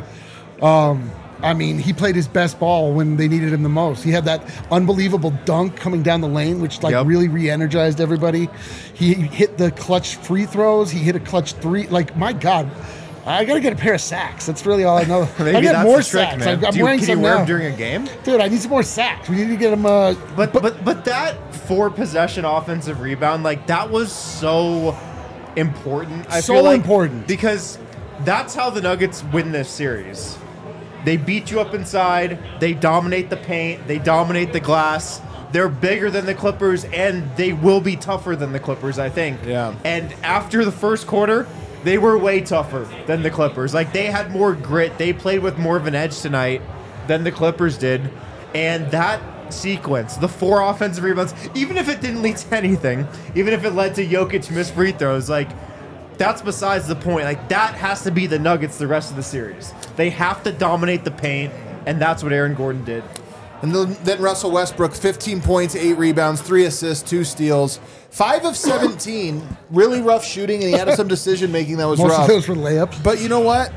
he played his best ball when they needed him the most. He had that unbelievable dunk coming down the lane, which really re-energized everybody. He hit the clutch free throws. He hit a clutch three. Like, my God. I got to get a pair of sacks. That's really all I know. Maybe I get that's more the trick, sacks. man. I'm wearing Can some you wear now. them during a game? Dude, I need some more sacks. We need to get him. But that 4-possession offensive rebound, like, that was so important. I So feel like, important. because that's how the Nuggets win this series. They beat you up inside. They dominate the paint. They dominate the glass. They're bigger than the Clippers, and they will be tougher than the Clippers, I think. Yeah. And after the first quarter, they were way tougher than the Clippers. Like, they had more grit. They played with more of an edge tonight than the Clippers did. And that sequence, the 4 offensive rebounds, even if it didn't lead to anything, even if it led to Jokic missed free throws, like, that's besides the point. Like, that has to be the Nuggets the rest of the series. They have to dominate the paint, and that's what Aaron Gordon did. And then Russell Westbrook, 15 points, 8 rebounds, 3 assists, 2 steals, 5 of 17. Really rough shooting, and he had some decision making that was most rough. of those were layups. But you know what?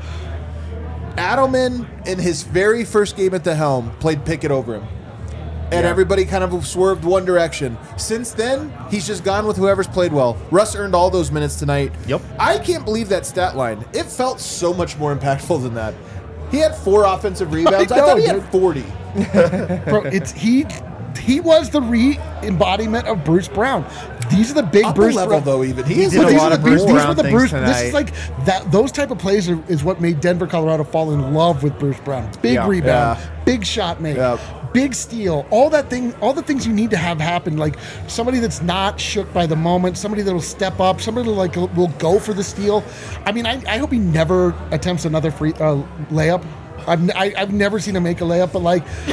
Adelman, in his very first game at the helm, played Pickett over him. And everybody kind of swerved one direction. Since then, he's just gone with whoever's played well. Russ earned all those minutes tonight. Yep. I can't believe that stat line. It felt so much more impactful than that. He had 4 offensive rebounds. I know, thought he dude. had 40. Bro, he was the re-embodiment of Bruce Brown. These are the big Upper Bruce level, Brown. though, even. He He is did a like- These lot are of the Bruce Bruce. These Brown were the things Bruce. tonight. This is like that. Those type of plays is what made Denver, Colorado fall in love with Bruce Brown. Big Yeah. rebound, Yeah. big shot make, Yeah. big steal. All the things you need to have happen. Like somebody that's not shook by the moment. Somebody that'll step up. Somebody that will go for the steal. I mean, I hope he never attempts another free layup. I've never seen him make a layup, but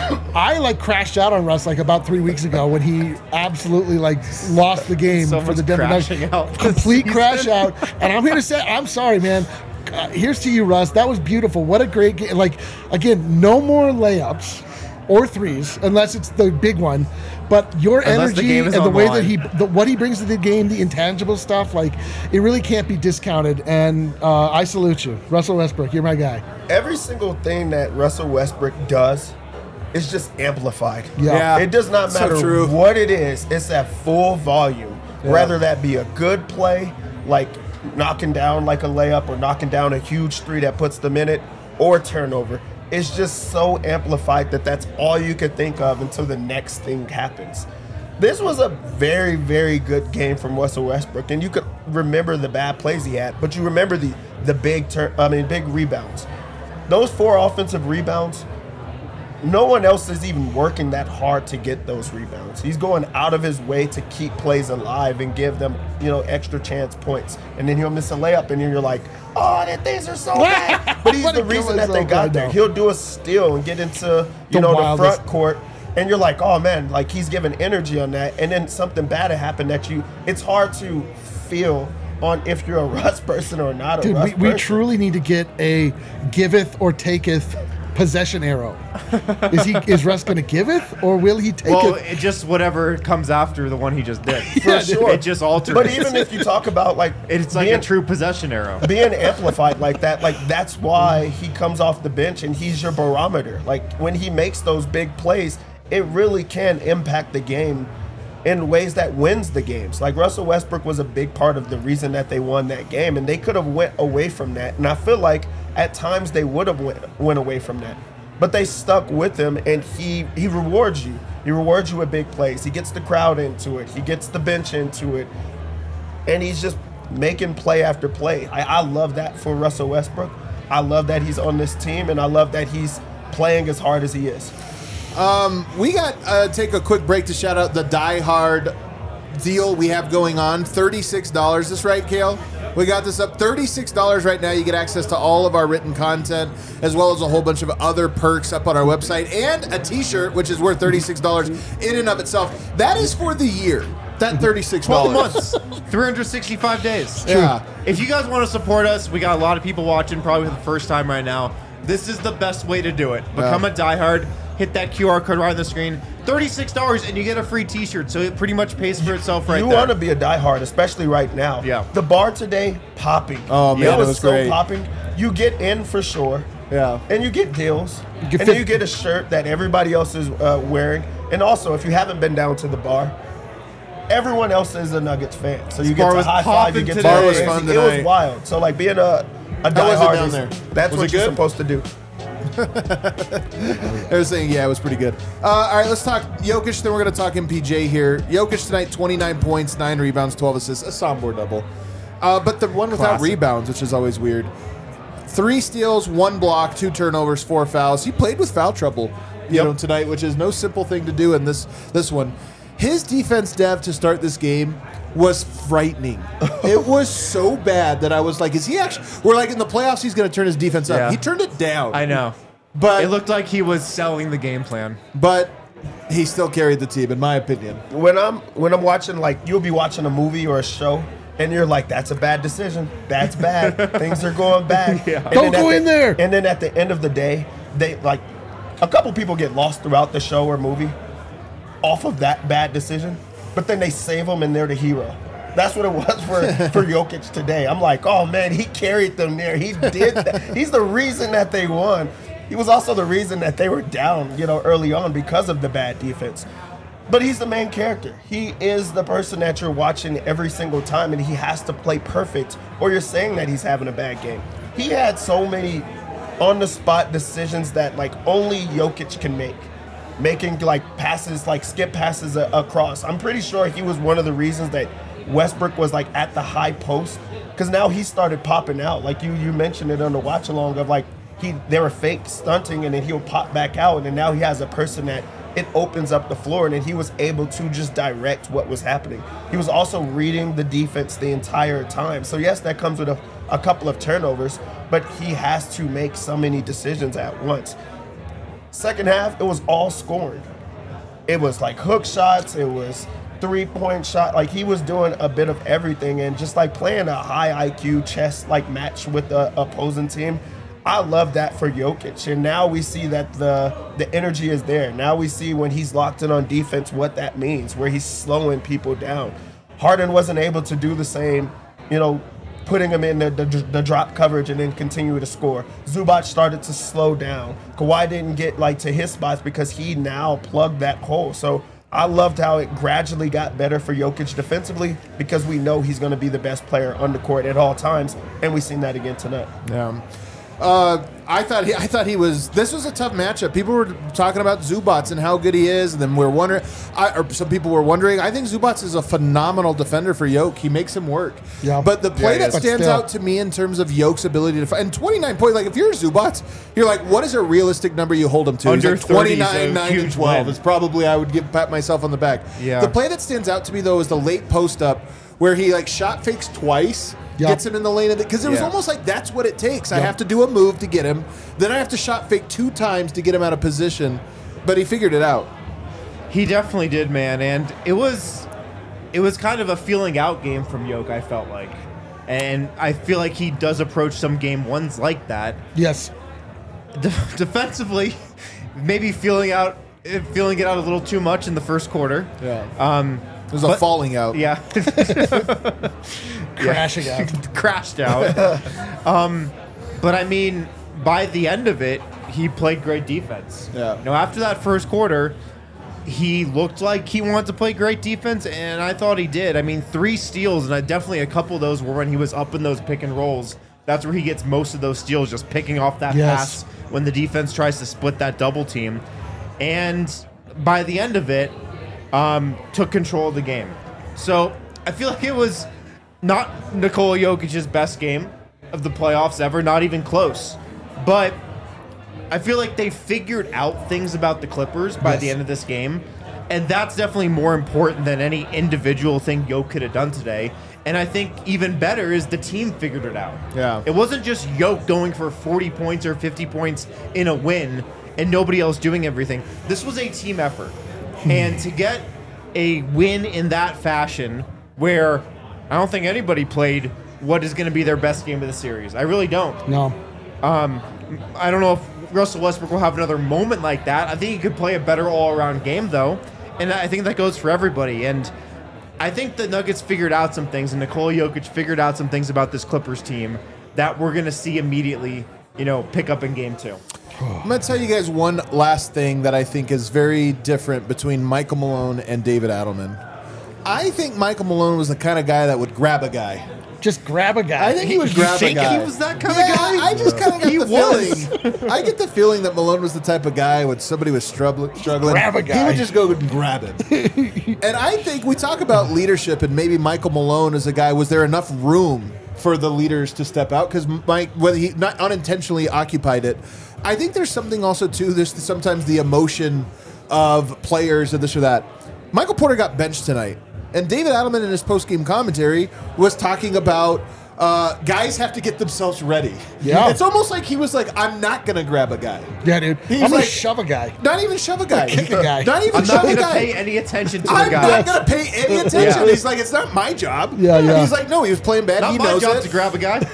I crashed out on Russ about 3 weeks ago when he absolutely lost the game for Someone's the Denver crashing Nuggets. out this Complete season. crash out. And I'm here to say, I'm sorry, man. Here's to you, Russ. That was beautiful. What a great game. Again, no more layups or threes unless it's the big one. But your Unless the energy game and is the on way the that what he brings to the game, the intangible stuff, it really can't be discounted. And I salute you, Russell Westbrook. You're my guy. Every single thing that Russell Westbrook does is just amplified. Yeah. It does not So matter true. what it is. It's at full volume. Whether that be a good play, like knocking down like a layup or knocking down a huge three that puts them in it, or turnover. It's just so amplified that that's all you could think of until the next thing happens. This was a very, very good game from Russell Westbrook, and you could remember the bad plays he had, but you remember the big rebounds. Those 4 offensive rebounds, no one else is even working that hard to get those rebounds. He's going out of his way to keep plays alive and give them, extra chance points. And then he'll miss a layup, and then you're like, oh, that things are so bad. But he's What the a reason killer that they so got bad, there. though. He'll do a steal and get into, The the wildest. front court. And you're like, oh man, he's giving energy on that. And then something bad happened it's hard to feel on if you're a Russ person or not a Dude, Russ we person. truly need to get a giveth or taketh possession arrow. Is Russ going to giveth or will he take Well, it? it just whatever comes after the one he just did. For sure. It just alters. But even if you talk about it's like a true possession arrow. being amplified like that, that's why he comes off the bench and he's your barometer. When he makes those big plays, it really can impact the game in ways that wins the games. Russell Westbrook was a big part of the reason that they won that game, and they could have went away from that. And I feel like at times they would have went away from that. But they stuck with him, and he rewards you. He rewards you with big plays. He gets the crowd into it. He gets the bench into it. and he's just making play after play. I love that for Russell Westbrook. I love that he's on this team, and I love that he's playing as hard as he is. We got take a quick break to shout out the Die Hard deal we have going on. $36. Is this right, Kale? We got this up $36 right now. You get access to all of our written content, as well as a whole bunch of other perks up on our website, and a t-shirt, which is worth $36 in and of itself. That is for the year. That $36. 12 months, 365 days. Yeah. If you guys want to support us, we got a lot of people watching probably for the first time right now. This is the best way to do it. Become a diehard. Hit that QR code right on the screen. $36 and you get a free t-shirt, so it pretty much pays for itself right You there. want to be a diehard, especially right now. Yeah. The bar today, popping. Oh, man, it was so great. Popping. You get in for sure. Yeah. And you get deals. get And then you get a shirt that everybody else is wearing. And also, if you haven't been down to the bar, everyone else is a Nuggets fan. So you get bar to was high five, you popping get today. to Bar was crazy. fun It tonight. was wild. So like being a was it diehard down is, there? that's Was what it you're good? supposed to do. They were saying, yeah, it was pretty good. All right, let's talk Jokic, then we're going to talk MPJ here. Jokic tonight, 29 points, 9 rebounds, 12 assists, a Sombor double. But the one without Classic. rebounds, which is always weird. 3 steals, 1 block, 2 turnovers, 4 fouls. He played with foul trouble, you know, tonight, which is no simple thing to do in this one. His defense dev to start this game was frightening. It was so bad that I was like, is he actually... We're like, in the playoffs, he's going to turn his defense up. Yeah. He turned it down. I know. But It looked like he was selling the game plan. But he still carried the team, in my opinion. When I'm watching, like, you'll be watching a movie or a show, and you're like, that's a bad decision. That's bad. Things are going bad. Yeah. And Don't then go at in the- there. And then at the end of the day, they like a couple people get lost throughout the show or movie off of that bad decision, but then they save them and they're the hero. That's what it was for Jokic today. I'm like, oh man, he carried them there. He did that. He's the reason that they won. He was also the reason that they were down, early on because of the bad defense. But he's the main character. He is the person that you're watching every single time, and he has to play perfect, or you're saying that he's having a bad game. He had so many on-the-spot decisions that, like, only Jokic can make. Making, like, passes, like, skip passes across. I'm pretty sure he was one of the reasons that Westbrook was, like, at the high post, because now he started popping out. Like, you mentioned it on the watch-along of, like, they were fake stunting, and then he'll pop back out, and then now he has a person that it opens up the floor, and then he was able to just direct what was happening. He was also reading the defense the entire time. So yes, that comes with a couple of turnovers, but he has to make so many decisions at once. Second half, it was all scoring. It was like hook shots, it was three-point shot. Like, he was doing a bit of everything, and just like playing a high IQ chess like match with the opposing team. I love that for Jokic, and now we see that the energy is there. Now we see when he's locked in on defense what that means, where he's slowing people down. Harden wasn't able to do the same, putting him in the drop coverage and then continue to score. Zubac started to slow down. Kawhi didn't get to his spots because he now plugged that hole. So I loved how it gradually got better for Jokic defensively, because we know he's going to be the best player on the court at all times, and we've seen that again tonight. Yeah. I thought he was. This was a tough matchup. People were talking about Zubac and how good he is, and then we're wondering. Or some people were wondering. I think Zubac is a phenomenal defender for Jokic. He makes him work. Yeah. But the play he that is. stands But still. out to me in terms of Jokic's ability to fight, and 29 points. Like, if you're Zubac, you're like, what is a realistic number you hold him to? Under He's like 29, 30 is a 9, and huge 12. win. It's probably I would pat myself on the back. Yeah. The play that stands out to me though is the late post up where he shot fakes twice. Yep. Gets him in the lane of it, because it was Yeah. almost like that's what it takes. I have to do a move to get him, then I have to shot fake 2 times to get him out of position. But he figured it out. He definitely did, man, and it was kind of a feeling out game from Jokic, I felt like. And I feel like he does approach some game ones like that. Yes. Defensively, maybe feeling it out a little too much in the first quarter. Yeah. It was a but- falling out. Yeah. Crashing out. Crashed out. But I mean, by the end of it, he played great defense. Yeah. After that first quarter, he looked like he wanted to play great defense, and I thought he did. I mean, 3 steals, and definitely a couple of those were when he was up in those pick and rolls. That's where he gets most of those steals, just picking off that Yes. pass when the defense tries to split that double team. And by the end of it, took control of the game. So I feel like it was not Nikola Jokic's best game of the playoffs ever, not even close. But I feel like they figured out things about the Clippers by the end of this game. And that's definitely more important than any individual thing Jokic could have done today. And I think even better is the team figured it out. Yeah. It wasn't just Jokic going for 40 points or 50 points in a win and nobody else doing everything. This was a team effort. And to get a win in that fashion where I don't think anybody played what is going to be their best game of the series. I really don't. No. I don't know if Russell Westbrook will have another moment like that. I think he could play a better all-around game, though. And I think that goes for everybody. And I think the Nuggets figured out some things, and Nikola Jokic figured out some things about this Clippers team that we're going to see immediately, pick up in game 2. I'm going to tell you guys one last thing that I think is very different between Michael Malone and David Adelman. I think Michael Malone was the kind of guy that would grab a guy. Just grab a guy. I think he would grab a guy. He was that kind of guy? I just kind of got He the was. feeling. I get the feeling that Malone was the type of guy when somebody was struggling, grab a guy. he would just go and grab him. And I think we talk about leadership, and maybe Michael Malone is a guy. Was there enough room for the leaders to step out? Because whether he not unintentionally occupied it, I think there's something also too. There's sometimes the emotion of players and this or that. Michael Porter got benched tonight. And David Adelman in his post-game commentary was talking about guys have to get themselves ready. Yeah. It's almost like he was like, I'm not going to grab a guy. Yeah, dude. He's I'm going like- to shove a guy. Not even shove a guy. Kick a guy. Not even I'm shove not a going to guy. pay any attention to I'm the guy. not going to pay any attention. Yeah. He's like, it's not my job. Yeah, yeah. He's like, no, he was playing bad. Not he my knows job it. to grab a guy.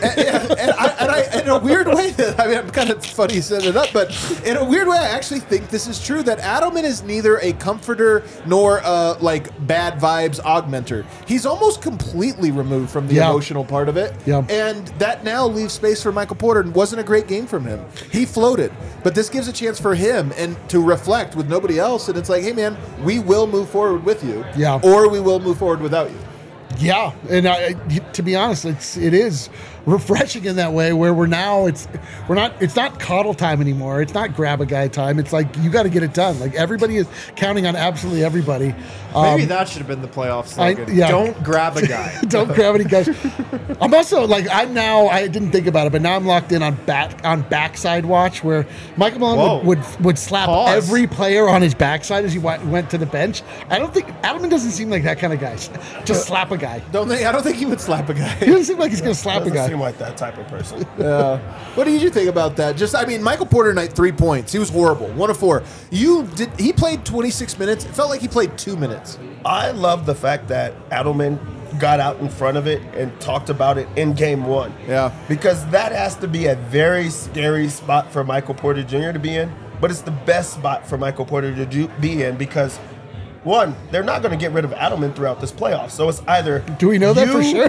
And in a weird way, I'm kind of funny setting it up, but in a weird way, I actually think this is true, that Adelman is neither a comforter nor bad vibes augmenter. He's almost completely removed from the Yeah. emotional part of it. Yeah. And that now leaves space for Michael Porter. It wasn't a great game from him. He floated. But this gives a chance for him and to reflect with nobody else. And it's like, hey, man, we will move forward with you. Yeah. Or we will move forward without you. Yeah, and to be honest, it is refreshing in that way where it's not coddle time anymore. It's not grab a guy time. It's like you got to get it done. Like everybody is counting on absolutely everybody. Maybe that should have been the playoff slogan. yeah. Don't grab a guy. Don't grab any guys. I'm also like I didn't think about it, but now I'm locked in on backside watch where Michael Malone would slap every player on his backside as he went to the bench. I don't think Adelman doesn't seem like that kind of guy. Just slap a guy. I don't think he would slap a guy. He doesn't seem like he's gonna slap a Doesn't guy. seem like that type of person. What did you think about that? Michael Porter tonight, 3 points. He was horrible. 1 of 4. He played 26 minutes. It felt like he played 2 minutes. I love the fact that Adelman got out in front of it and talked about it in game 1. Yeah. Because that has to be a very scary spot for Michael Porter Jr. to be in. But it's the best spot for Michael Porter to be in because, one, they're not going to get rid of Adelman throughout this playoff. So it's either Do we know that for sure?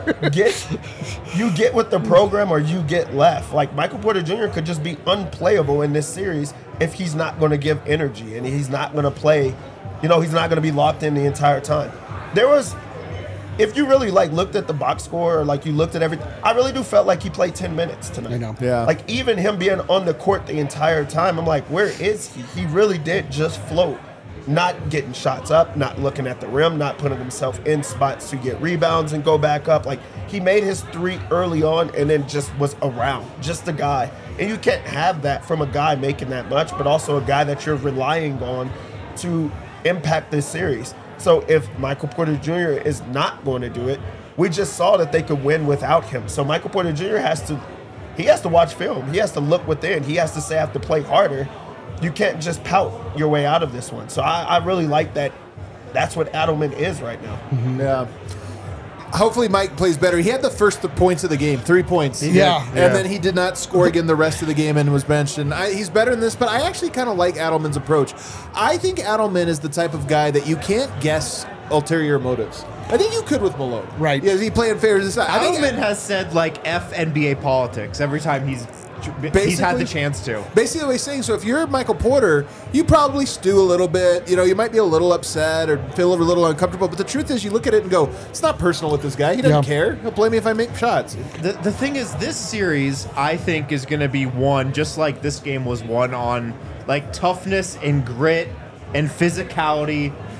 you get with the program or you get left. Like Michael Porter Jr. could just be unplayable in this series if he's not going to give energy and he's not going to play. He's not going to be locked in the entire time. If you really looked at the box score or you looked at everything, I really do felt like he played 10 minutes tonight. I know. Yeah. Like even him being on the court the entire time, I'm like, where is he? He really did just float. Not getting shots up, not looking at the rim, not putting himself in spots to get rebounds and go back up. Like he made his 3 early on and then just was around, just a guy. And you can't have that from a guy making that much, but also a guy that you're relying on to impact this series. So if Michael Porter Jr. is not going to do it, we just saw that they could win without him. So Michael Porter Jr. has to watch film. He has to look within. He has to say I have to play harder. You can't just pout your way out of this one. So I really like that. That's what Adelman is right now. Yeah. Hopefully Mike plays better. He had the first points of the game, 3 points. Yeah. And then he did not score again the rest of the game and was benched. And he's better than this, but I actually kind of like Adelman's approach. I think Adelman is the type of guy that you can't guess ulterior motives. I think you could with Malone. Right. Yeah, is he playing fair? I think Adelman has said F NBA politics every time he's had the chance to. Basically, what he's saying, so if you're Michael Porter, you probably stew a little bit. You might be a little upset or feel a little uncomfortable. But the truth is, you look at it and go, it's not personal with this guy. He doesn't care. He'll play me if I make shots. The thing is, this series, I think, is going to be won just like this game was won on toughness and grit and physicality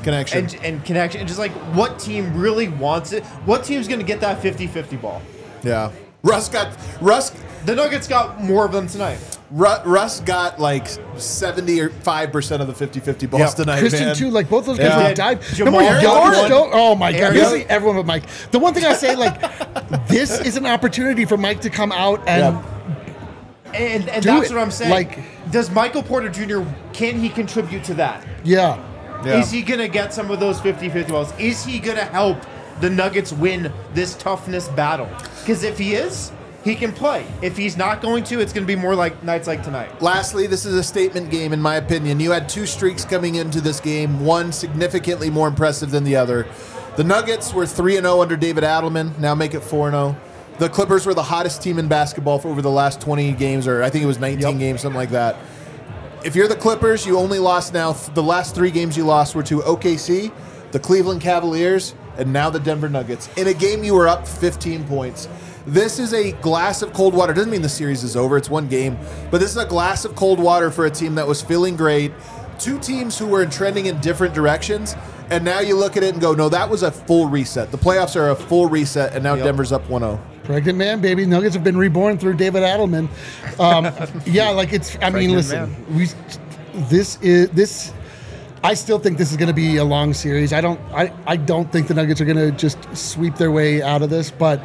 Connection. and connection, and just like what team really wants it. What team's going to get that 50-50 ball? Yeah. The Nuggets got more of them tonight. Russ got like 75% of the 50-50 balls Yep. tonight, Christian man. too, like both those guys Yeah. would dive. Jamal Remember Jokic Gordon. though? Oh my god, Aaron- basically everyone but Mike. The one thing I say, like, this is an opportunity for Mike to come out and And Do that's it. what I'm saying. Like- does Michael Porter Jr. can he contribute to that? yeah. Yeah. Is he going to get some of those 50-50 balls? Is he going to help the Nuggets win this toughness battle? Because if he is, he can play. If he's not going to, it's going to be more like nights like tonight. Lastly, this is a statement game, in my opinion. You had two streaks coming into this game, one significantly more impressive than the other. The Nuggets were 3-0 under David Adelman, now make it 4-0. The Clippers were the hottest team in basketball for over the last 20 games, or I think it was 19 games, something like that. If you're the Clippers, you only lost now. The last 3 games you lost were to OKC, the Cleveland Cavaliers, and now the Denver Nuggets. In a game you were up 15 points. This is a glass of cold water. Doesn't mean the series is over. It's one game. But this is a glass of cold water for a team that was feeling great. Two teams who were trending in different directions. And now you look at it and go, no, that was a full reset. The playoffs are a full reset, and now Denver's up 1-0. Pregnant man, baby. Nuggets have been reborn through David Adelman. Yeah, like it's. I mean, listen, this. I still think this is going to be a long series. I don't think the Nuggets are going to just sweep their way out of this, but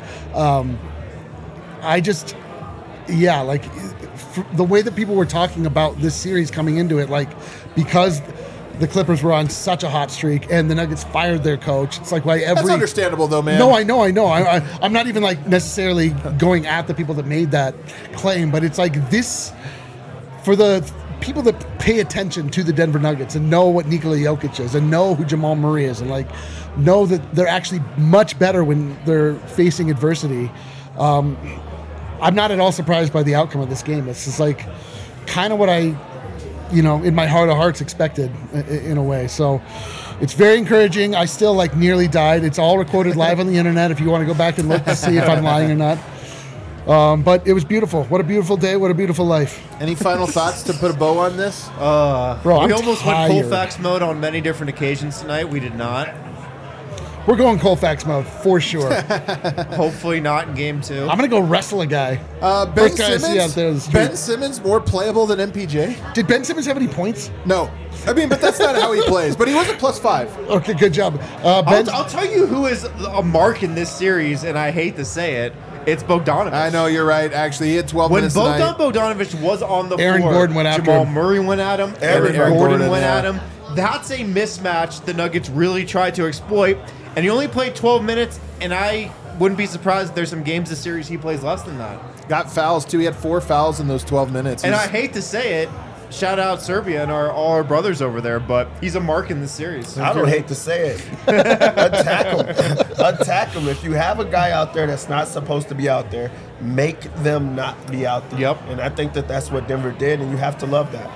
like the way that people were talking about this series coming into it, like because the Clippers were on such a hot streak and the Nuggets fired their coach. It's like why every. That's understandable, though, man. No, I know. I'm not even like necessarily going at the people that made that claim, but it's like this for the people that pay attention to the Denver Nuggets and know what Nikola Jokic is and know who Jamal Murray is and like know that they're actually much better when they're facing adversity. I'm not at all surprised by the outcome of this game. It's just like kind of what I, in my heart of hearts expected in a way. So it's very encouraging. I still like nearly died. It's all recorded live on the internet if you want to go back and look to see if I'm lying or not. But it was beautiful. What a beautiful day. What a beautiful life. Any final thoughts to put a bow on this? Bro, We I'm almost tired. went Colfax mode on many different occasions tonight. We did not. We're going Colfax mode for sure. Hopefully not in game 2. I'm gonna go wrestle a guy. Ben First guy I see out there in the Simmons. street. Ben Simmons more playable than MPJ? Did Ben Simmons have any points? No. I mean, but that's not how he plays. But he was a +5. Okay, good job. Ben, I'll tell you who is a mark in this series, and I hate to say it. It's Bogdanovich. I know, you're right. Actually, he had 12 When minutes tonight. Bogdanovich was on the Aaron floor, Gordon went after Jamal him. Murray went at him. Aaron Gordon Gordon, went yeah. at him. That's a mismatch the Nuggets really tried to exploit. And he only played 12 minutes, and I wouldn't be surprised if there's some games this series he plays less than that. Got fouls, too. He had 4 fouls in those 12 minutes. And He's- I hate to say it, shout out Serbia and all our brothers over there, but he's a mark in this series. I don't hate to say it. Attack him. Attack him. If you have a guy out there that's not supposed to be out there, make them not be out there. Yep. And I think that's what Denver did, and you have to love that.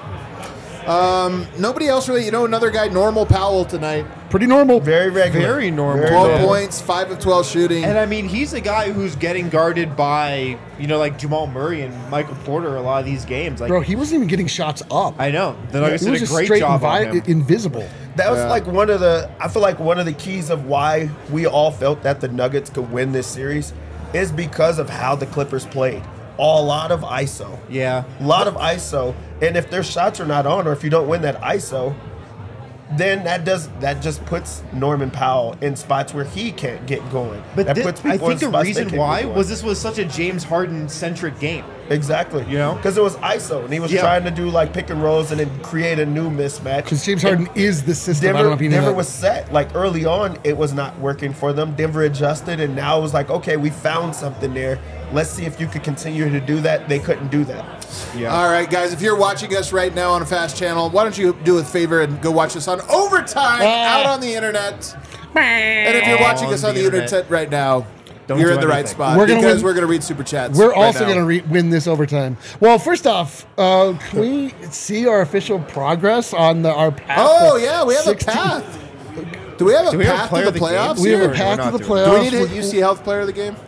Nobody else really, another guy, Normal Powell tonight. pretty normal. Very regular. Very normal. 12 Yeah. points, 5 of 12 shooting. And I mean, he's a guy who's getting guarded by, like Jamal Murray and Michael Porter a lot of these games. Like, Bro, he wasn't even getting shots up. I know. The Nuggets He did was a just great straight job on him. invisible. That was like I feel like one of the keys of why we all felt that the Nuggets could win this series is because of how the Clippers played. A lot of ISO. Yeah. A lot of ISO. And if their shots are not on, or if you don't win that ISO, then that just puts Norman Powell in spots where he can't get going. But that I people in think the spots they reason can't why get going. was this was such a James Harden-centric game. Exactly. Because it was ISO, and he was Yeah. trying to do like pick and rolls and then create a new mismatch. Because James Harden is the system. I don't know if you know Denver that. was set. Like early on, it was not working for them. Denver adjusted, and now it was like, okay, we found something there. Let's see if you could continue to do that. They couldn't do that. Yeah. All right, guys, if you're watching us right now on a Fast Channel, why don't you do a favor and go watch us on Overtime out on the internet. And if you're watching us on the internet right now, Don't you're do in the right anything. spot We're gonna because win- we're going to read Super Chats. We're right also now. going to win this overtime. Well, first off, can we see our official progress on our path? Oh, to yeah, we have 16? a path. Do we have a we have a path player to of the the game? playoffs? We have Or a we're path not to the doing playoffs. Do we need to hit with- UC Health Player of the Game?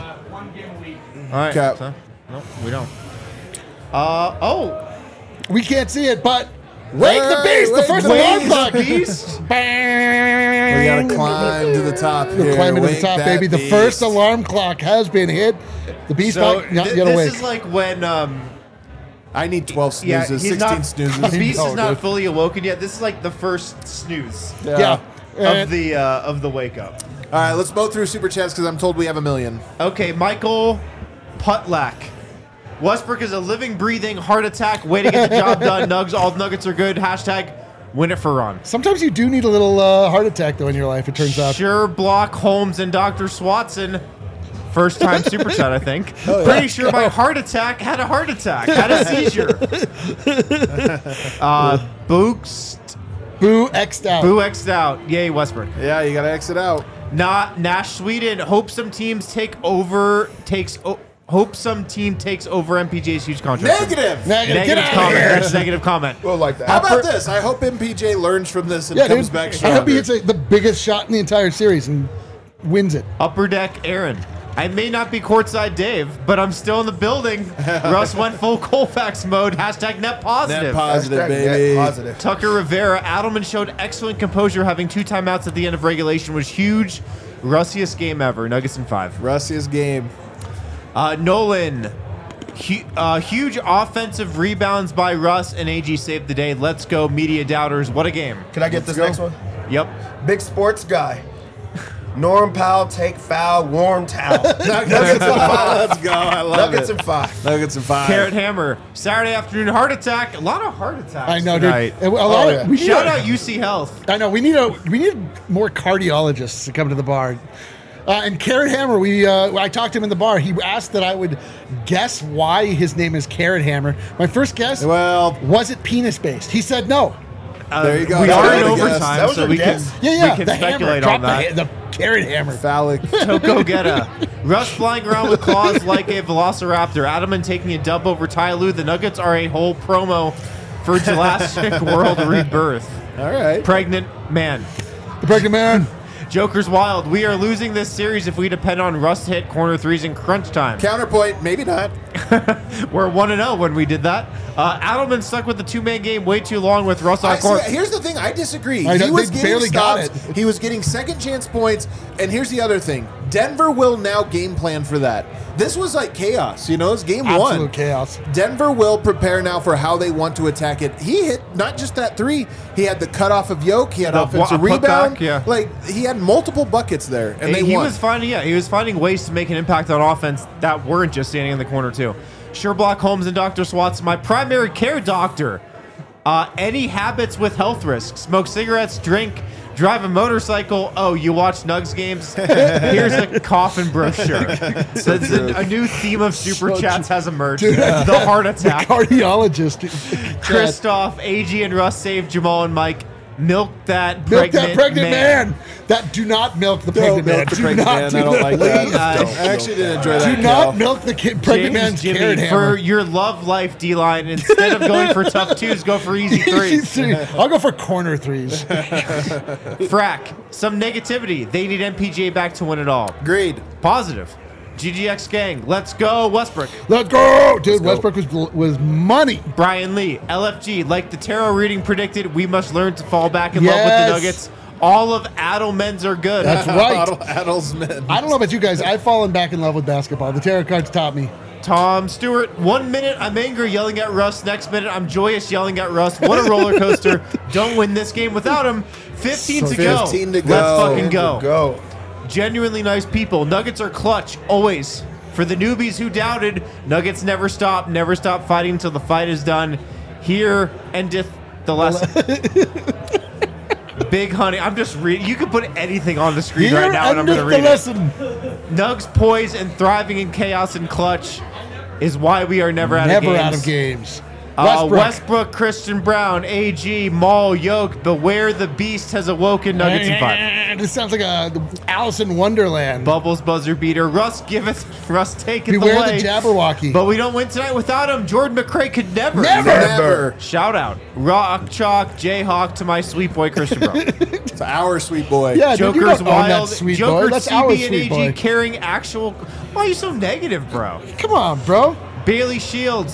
All right. Okay. So, no, we don't. We can't see it, but Wake the beast! The first alarm clock! Beast. We gotta climb to the top here. Climbing to the Wake top, that baby. The beast. first alarm clock has been hit. The beast So might not get this awake. is like when I need 12 yeah, snoozes, he's 16 not, snoozes. the beast No, is not dude. fully awoken yet. This is like the first snooze Yeah. of the wake up. All right, let's go through super chats because I'm told we have a million. Okay, Michael Putlak. Westbrook is a living, breathing heart attack. Way to get the job done, Nugs. All Nuggets are good. Hashtag win it for Ron. Sometimes you do need a little heart attack, though, in your life, it turns out. Sure, Block, Holmes, and Dr. Swatson. First time super chat, I think. Pretty sure my heart attack had a heart attack. Had a seizure. Books. Boo X'd out. Boo X'd out. Yay, Westbrook. Yeah, you gotta exit out. Nash Sweden. Hope some team takes over MPJ's huge contract. Negative. Negative. Get Negative out of comment. here. That's a negative comment. We'll like that. How about this? I hope MPJ learns from this and Yeah, comes dude. back I hope he stronger. hits the biggest shot in the entire series and wins it. Upper deck, Aaron. I may not be courtside Dave, but I'm still in the building. Russ went full Colfax mode. Hashtag net positive. Net positive, Hashtag baby. net positive. Tucker Rivera. Adelman showed excellent composure. Having 2 timeouts at the end of regulation was huge. Russiest game ever. Nuggets in 5. Russiest game. Nolan. Huge offensive rebounds by Russ and AG saved the day. Let's go, media doubters. What a game. Can I get this next one? Yep. Big sports guy. Norm Powell, take foul, warm towel. Nuggets in 5. Let's go. I love Nuggets it. in 5. Nuggets in 5. Carrot Hammer. Saturday afternoon heart attack. A lot of heart attacks I know, tonight. dude. A lot of- yeah. we need Shout a- out UC Health. I know we need more cardiologists to come to the bar. And Carrot Hammer, I talked to him in the bar. He asked that I would guess why his name is Carrot Hammer. My first guess Well, was it penis based. He said no. there you go. We That are was in a guess. overtime, That was so your we can, guess? Yeah, we can the hammer. speculate Drop on that. the Carrot Hammer. phallic. Go get a Russ flying around with claws like a velociraptor. Adelman taking a dub over Ty Lue. The Nuggets are a whole promo for Jurassic World Rebirth. All right. Pregnant man. The pregnant man. Joker's wild. We are losing this series if we depend on Russ to hit corner threes in crunch time. Counterpoint, maybe not. We're 1-0 when we did that. Adelman stuck with the 2-man game way too long with Russ on court. Here's the thing. I disagree. I know, He was they getting barely got stops. He was getting second chance points. And here's the other thing. Denver will now game plan for that. This was like chaos. It's game one. Absolute chaos. Denver will prepare now for how they want to attack it. He hit not just that 3. He had the cutoff of Yoke. He had The offensive putback, rebound. yeah. Like he had multiple buckets there, and they he won. was finding ways to make an impact on offense that weren't just standing in the corner too. Sherlock Holmes and Dr. Swatson, my primary care doctor. Any habits with health risks? Smoke cigarettes, drink, drive a motorcycle. Oh, you watch Nugs games? Here's a coffin brochure. So it's a new theme of super So chats has emerged. Dude. The heart attack. Cardiologist. Christoph, AG, and Russ saved Jamal and Mike. Milk that Milk pregnant, that pregnant man. That do not milk the pregnant man. milk the Do pregnant not man. do I don't like that. that. I actually didn't enjoy that. Do Cal. not milk the pregnant man's James carrot Jimmy, hammer. for your love life D-line, instead of going for tough twos, go for easy threes. I'll go for corner threes. Frack, some negativity. They need MPJ back to win it all. Agreed. Positive. GGX gang, let's go Westbrook. Let's go, dude. Let's go. Westbrook was money. Brian Lee, LFG, like the tarot reading predicted, we must learn to fall back in love with Yes. the Nuggets. All of Adelmen's are good. That's right. Adelsman. I don't know about you guys. I've fallen back in love with basketball. The tarot cards taught me. Tom Stewart, 1 minute I'm angry yelling at Russ, next minute I'm joyous yelling at Russ. What a roller coaster. Don't win this game without him. 15 to go. 15 to go. Let's fucking go. Go. Genuinely nice people. Nuggets are clutch, always. For the newbies who doubted, Nuggets never stop fighting until the fight is done. Here endeth the lesson. Big Honey, I'm just reading. You can put anything on the screen right now and I'm going to read endeth it. the lesson. Nugs poised and thriving in chaos and clutch is why we are never out of games. Never out of games. Westbrook, Christian Brown, AG, Maul, Yoke, beware the beast has awoken. Nuggets in 5. This sounds like a Alice in Wonderland. Bubbles buzzer beater. Russ taketh Beware away. the Jabberwocky. But we don't win tonight without him. Jordan McRae could never. Never. Shout out. Rock Chalk, Jayhawk to my sweet boy Christian Brown. It's our sweet boy. Yeah, dude, you Joker's don't own that wild. sweet Joker boy. That's CB our and sweet AG boy. carrying actual. Why are you so negative, bro? Come on, bro. Bailey Shields.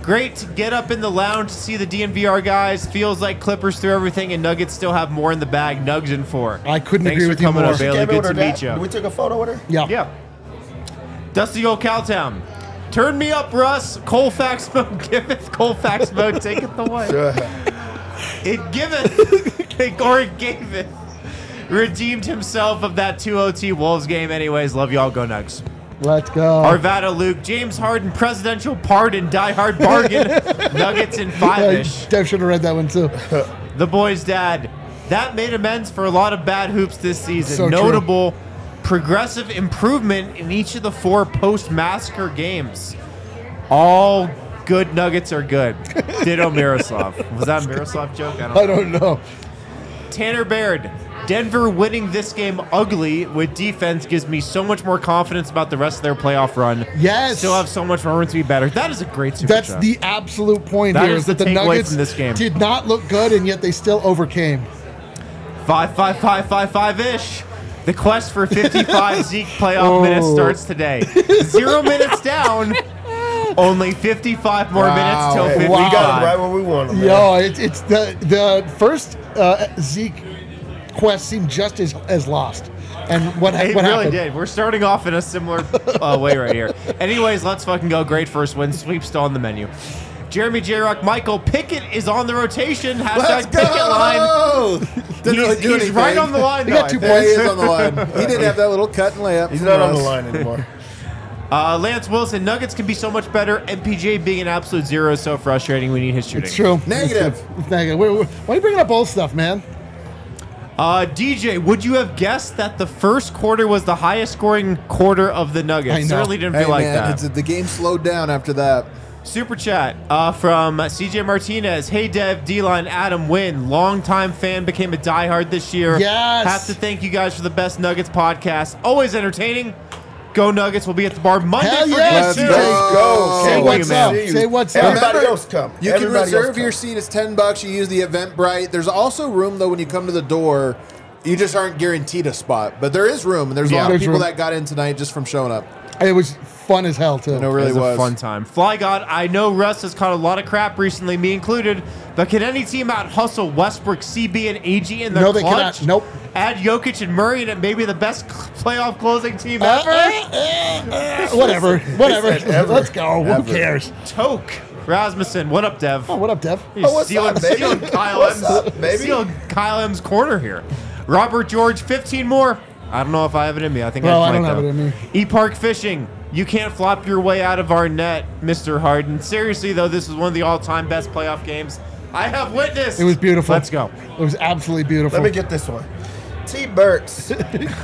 Great to get up in the lounge to see the DNVR guys. Feels like Clippers threw everything and Nuggets still have more in the bag. Nugs in 4. I couldn't Thanks agree for with you coming more. up, Bailey. Came in Good with to her meet dad. you. We took a photo with her. Yeah. Yeah. Dusty old Cowtown. Turn me up, Russ. Colfax mode giveth. Colfax mode taketh away. It giveth. Or it gaveth. Redeemed himself of that 2-0 Wolves game. Anyways, love y'all. Go Nugs. Let's go. Arvada Luke. James Harden. Presidential pardon. Die hard bargain. Nuggets in 5-ish. Dev should have read that one too. The boy's dad. That made amends for a lot of bad hoops this season. So true. Notable progressive improvement in each of the 4 post-massacre games. All good Nuggets are good. Ditto Miroslav. Was that a Miroslav joke? I don't know. Tanner Baird. Denver winning this game ugly with defense gives me so much more confidence about the rest of their playoff run. Yes. Still have so much more room to be better. That is a great super That's chat. the absolute point That here. is Is that the the takeaway Nuggets from this game. did not look good, and yet they still overcame. 5-5-5-5-5-ish. The quest for 55 Zeke playoff minutes starts today. 0 minutes down. Only 55 more minutes till Wow. 55. We got him right where we want him. man. Yo, it's the first Zeke quest seemed just as lost. And what It what really happened? did. We're starting off in a similar way right here. Anyways, let's fucking go. Great first win. Sweep still on the menu. Jeremy J. Rock, Michael Pickett is on the rotation. Let's Hashtag Pickett line. go! Didn't really do He's anything. right on the line. He though, got 2 I think. Yeah, he is on the line. He did have that little cut and layup. He's from not on the Russ. line anymore. Lance Wilson, Nuggets can be so much better. MPJ being an absolute zero is so frustrating. We need his shooting. It's true. Negative. It's negative. Why are you bringing up old stuff, man? DJ, would you have guessed that the first quarter was the highest scoring quarter of the Nuggets? I know. Certainly didn't Hey, feel like man, that. the game slowed down after that. Super chat from CJ Martinez. Hey, Dev, D-Line, Adam, Win. Longtime fan, became a diehard this year. Yes. Have to thank you guys for the best Nuggets podcast. Always entertaining. Go Nuggets. We'll be at the bar Monday Hell for yes, game Let's 2. go. Go. Say Can't what's wait to up. see you. Say what's up. Everybody Remember, else come. You can Everybody else reserve come. your seat. It's $10. You use the Eventbrite. There's also room though when you come to the door. You just aren't guaranteed a spot, but there is room, and there's a lot of There's people room. that got in tonight just from showing up. It was fun as hell too. I know, really It was was a fun time. Fly God, I know Russ has caught a lot of crap recently, me included, but can any team out hustle Westbrook, CB, and AG in their No, they clutch? cannot. Nope. Add Jokic and Murray, and it may be the best playoff closing team ever. Whatever. said ever. Let's go. Ever. Who cares? Toke Rasmussen, what up, Dev? Oh, what up, Dev? You're what's stealing, up, baby? stealing Kyle What's M's, up, baby? stealing Kyle M's corner here. Robert George, 15 more. I don't know if I have it in me. I think Well, I I might, don't have though. it in me. E-Park Fishing. You can't flop your way out of our net, Mr. Harden. Seriously, though, this is one of the all-time best playoff games I have witnessed. It was beautiful. Let's go. It was absolutely beautiful. Let me get this one. T. Burks.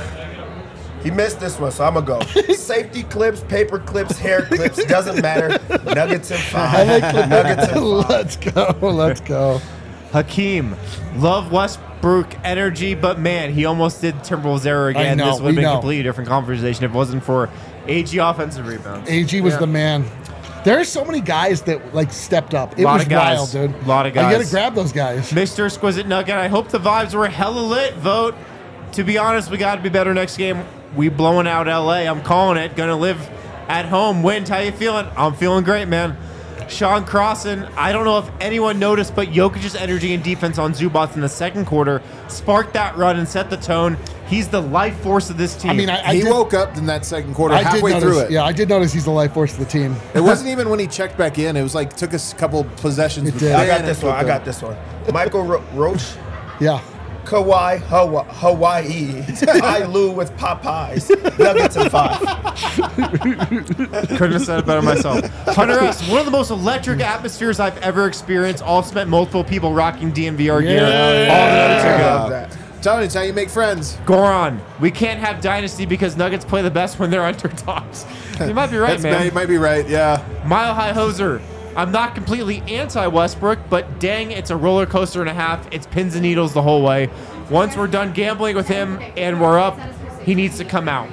He missed this one, so I'm going to go. Safety clips, paper clips, hair clips, doesn't matter. Nuggets in 5. Nuggets in 5. Let's go. Let's go. Hakeem. Love Westbrook energy, but man, he almost did Timberwolves error again. know, This would have we been a know. completely different conversation if it wasn't for AG offensive rebounds. AG was the man. There are so many guys that like stepped up. It Lot was of guys. wild, dude. Lot of I guys. gotta grab those guys. Mr. Exquisite Nugget, I hope the vibes were hella lit. Vote. To be honest, we got to be better next game. We blowing out LA. I'm calling it. Gonna live at home. Wind, how you feeling? I'm feeling great, man. Sean Crossan, I don't know if anyone noticed, but Jokic's energy and defense on Zubats in the second quarter sparked that run and set the tone. He's the life force of this team. I mean, I He did, woke up in that second quarter, I did halfway notice, through it. Yeah, I did notice he's the life force of the team. It wasn't even when he checked back in. It was like took us a couple possessions. It but did. I got then this it one. I took got a- this one. Michael Roach. Yeah. Kauai, Hawaii. I Lou with Popeyes. Nuggets in 5. couldn't have said it better myself. Hunter S., one of the most electric atmospheres I've ever experienced. Also met multiple people rocking DNVR gear. Yeah. All the Nuggets are I good. love that. Telling you, it's how you make friends. Goron, we can't have Dynasty because Nuggets play the best when they're underdogs. You might be right, You man. might be right. Yeah. Mile High Hoser, I'm not completely anti-Westbrook, but dang, it's a roller coaster and a half. It's pins and needles the whole way. Once we're done gambling with him and we're up, he needs to come out.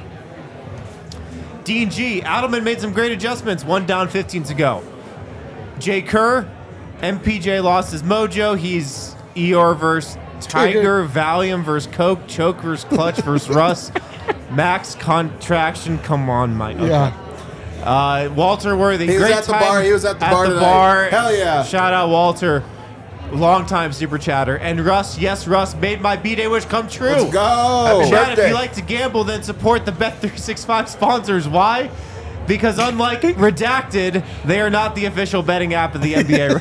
Dean G, Adelman made some great adjustments. 1 down, 15 to go. Jay Kerr, MPJ lost his mojo. He's Eeyore versus Tiger, Valium versus Coke, Choke versus Clutch versus Russ. Max contraction. Come on, Mike. Okay. Yeah. Walter Worthy. He was great at the time bar. He was at the bar tonight. bar. Hell yeah. Shout out Walter. Long-time super chatter. And Russ, yes, Russ made my B-Day wish come true. Let's go. Happy Chad, if birthday. you like to gamble, then support the Bet365 sponsors. Why? Because unlike Redacted, they are not the official betting app of the NBA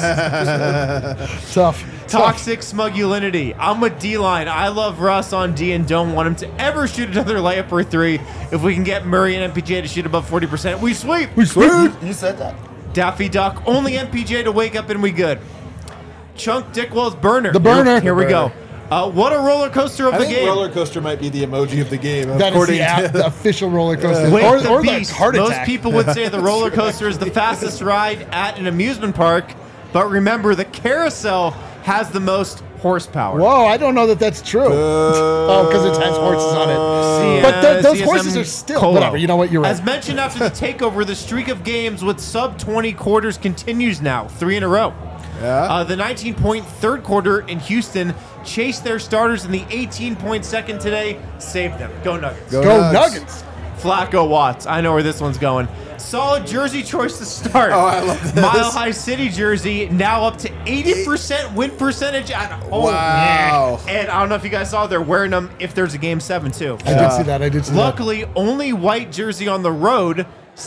refs. Tough. Toxic smugulinity. I'm with D-Line. I love Russ on D and don't want him to ever shoot another layup or three. If we can get Murray and MPJ to shoot above 40%, we sweep. We sweep. You said that. Daffy Duck. Only MPJ to wake up and we good. Chunk Dickwell's burner. The burner. Here we go. What a roller coaster of I the think game. roller coaster might be the emoji of the game. That is according the, app, to the official roller coaster. Wake or the or beast. the heart Most attack. people would say the roller coaster is the fastest ride at an amusement park, but remember the carousel has the most horsepower. Whoa, I don't know that that's true. Oh, because it has horses on it. But those CSM horses are still Colo. whatever. You know what? You're right. As mentioned after the takeover, the streak of games with sub 20 quarters continues now, 3 in a row. Yeah. The 19-point third quarter in Houston chased their starters in the 18-point second today, saved them. Go Nuggets. Go Nugs. Nuggets. Flacco Watts. I know where this one's going. Solid jersey choice to start. Oh, I love this. Mile High City jersey now up to 80% win percentage at home. Wow. And I don't know if you guys saw, they're wearing them if there's a game 7 too. I did see that. I did see that. Luckily, only white jersey on the road,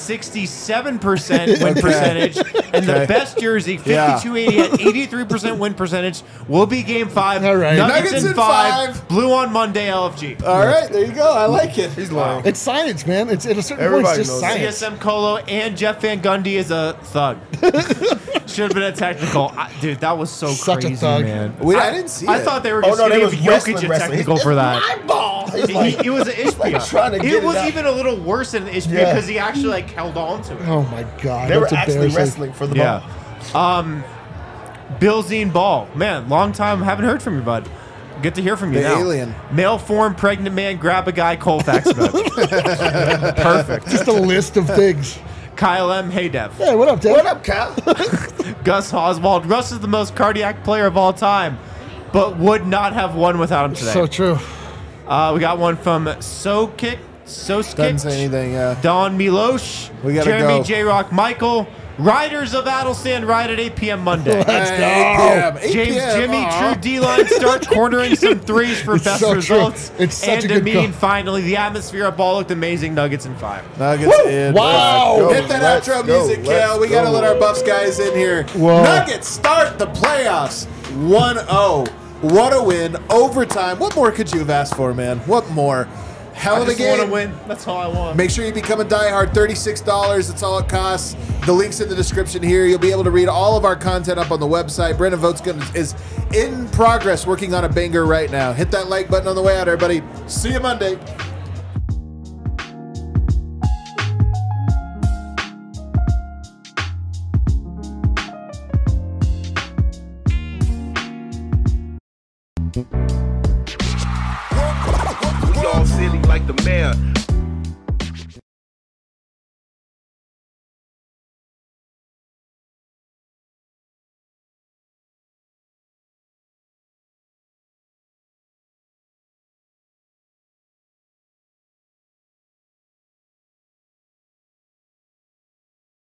67% win percentage, and the best jersey, 5280 at 83% win percentage, will be game 5. All right. Nuggets in 5. Blue on Monday, LFG. All right, there you go. I like it. He's lying. It's science, man. It's at a certain Everybody point, it's just knows science. CSM Colo and Jeff Van Gundy is a thug. Should have been a technical. Dude, that was so Such a crazy, thug. man. Wait, I didn't see I it. thought they were Oh, just no, they going was to give Jokic a wrestling. technical for that. My ball. He's like, It was an Ishbia. trying to get It it was out. even a little worse than an Ishbia Yeah. because he actually like held on to it. Oh my god, they were that's actually embarrassing. wrestling for the ball. Yeah. Bill Zine Ball. Man, long time haven't heard from you, bud. Good to hear from you The now. alien. Male form pregnant man grab a guy Colfax mode. Perfect. Just a list of things. Kyle M. Hey Dev. Hey, what up, Dave? What up, Cal? Gus Oswald. Russ is the most cardiac player of all time, but would not have won without him today. So true. We got one from Soskic. Doesn't say anything. Yeah. Don Milosh. We gotta Jeremy go. J. Rock Michael. Riders of Adelstand ride at 8 p.m. Monday. Let's go. 8 p.m. James 8 p.m. Jimmy, Aw. true D-line, start cornering some threes for It's best so true. results. It's such and a good Amin, call. finally, the atmosphere at ball looked amazing. Nuggets in 5. Nuggets in. Wow. Let's go. Hit that Let's outro go. music, Let's Cal. We got to go. let our Buffs guys in here. Whoa. Nuggets start the playoffs 1-0. What a win. Overtime. What more could you have asked for, man? What more? Hell I of a just want game. to win. That's all I want. Make sure you become a diehard. $36. That's all it costs. The link's in the description here. You'll be able to read all of our content up on the website. Brendan Votes is in progress working on a banger right now. Hit that like button on the way out, everybody. See you Monday. We all silly like the mayor.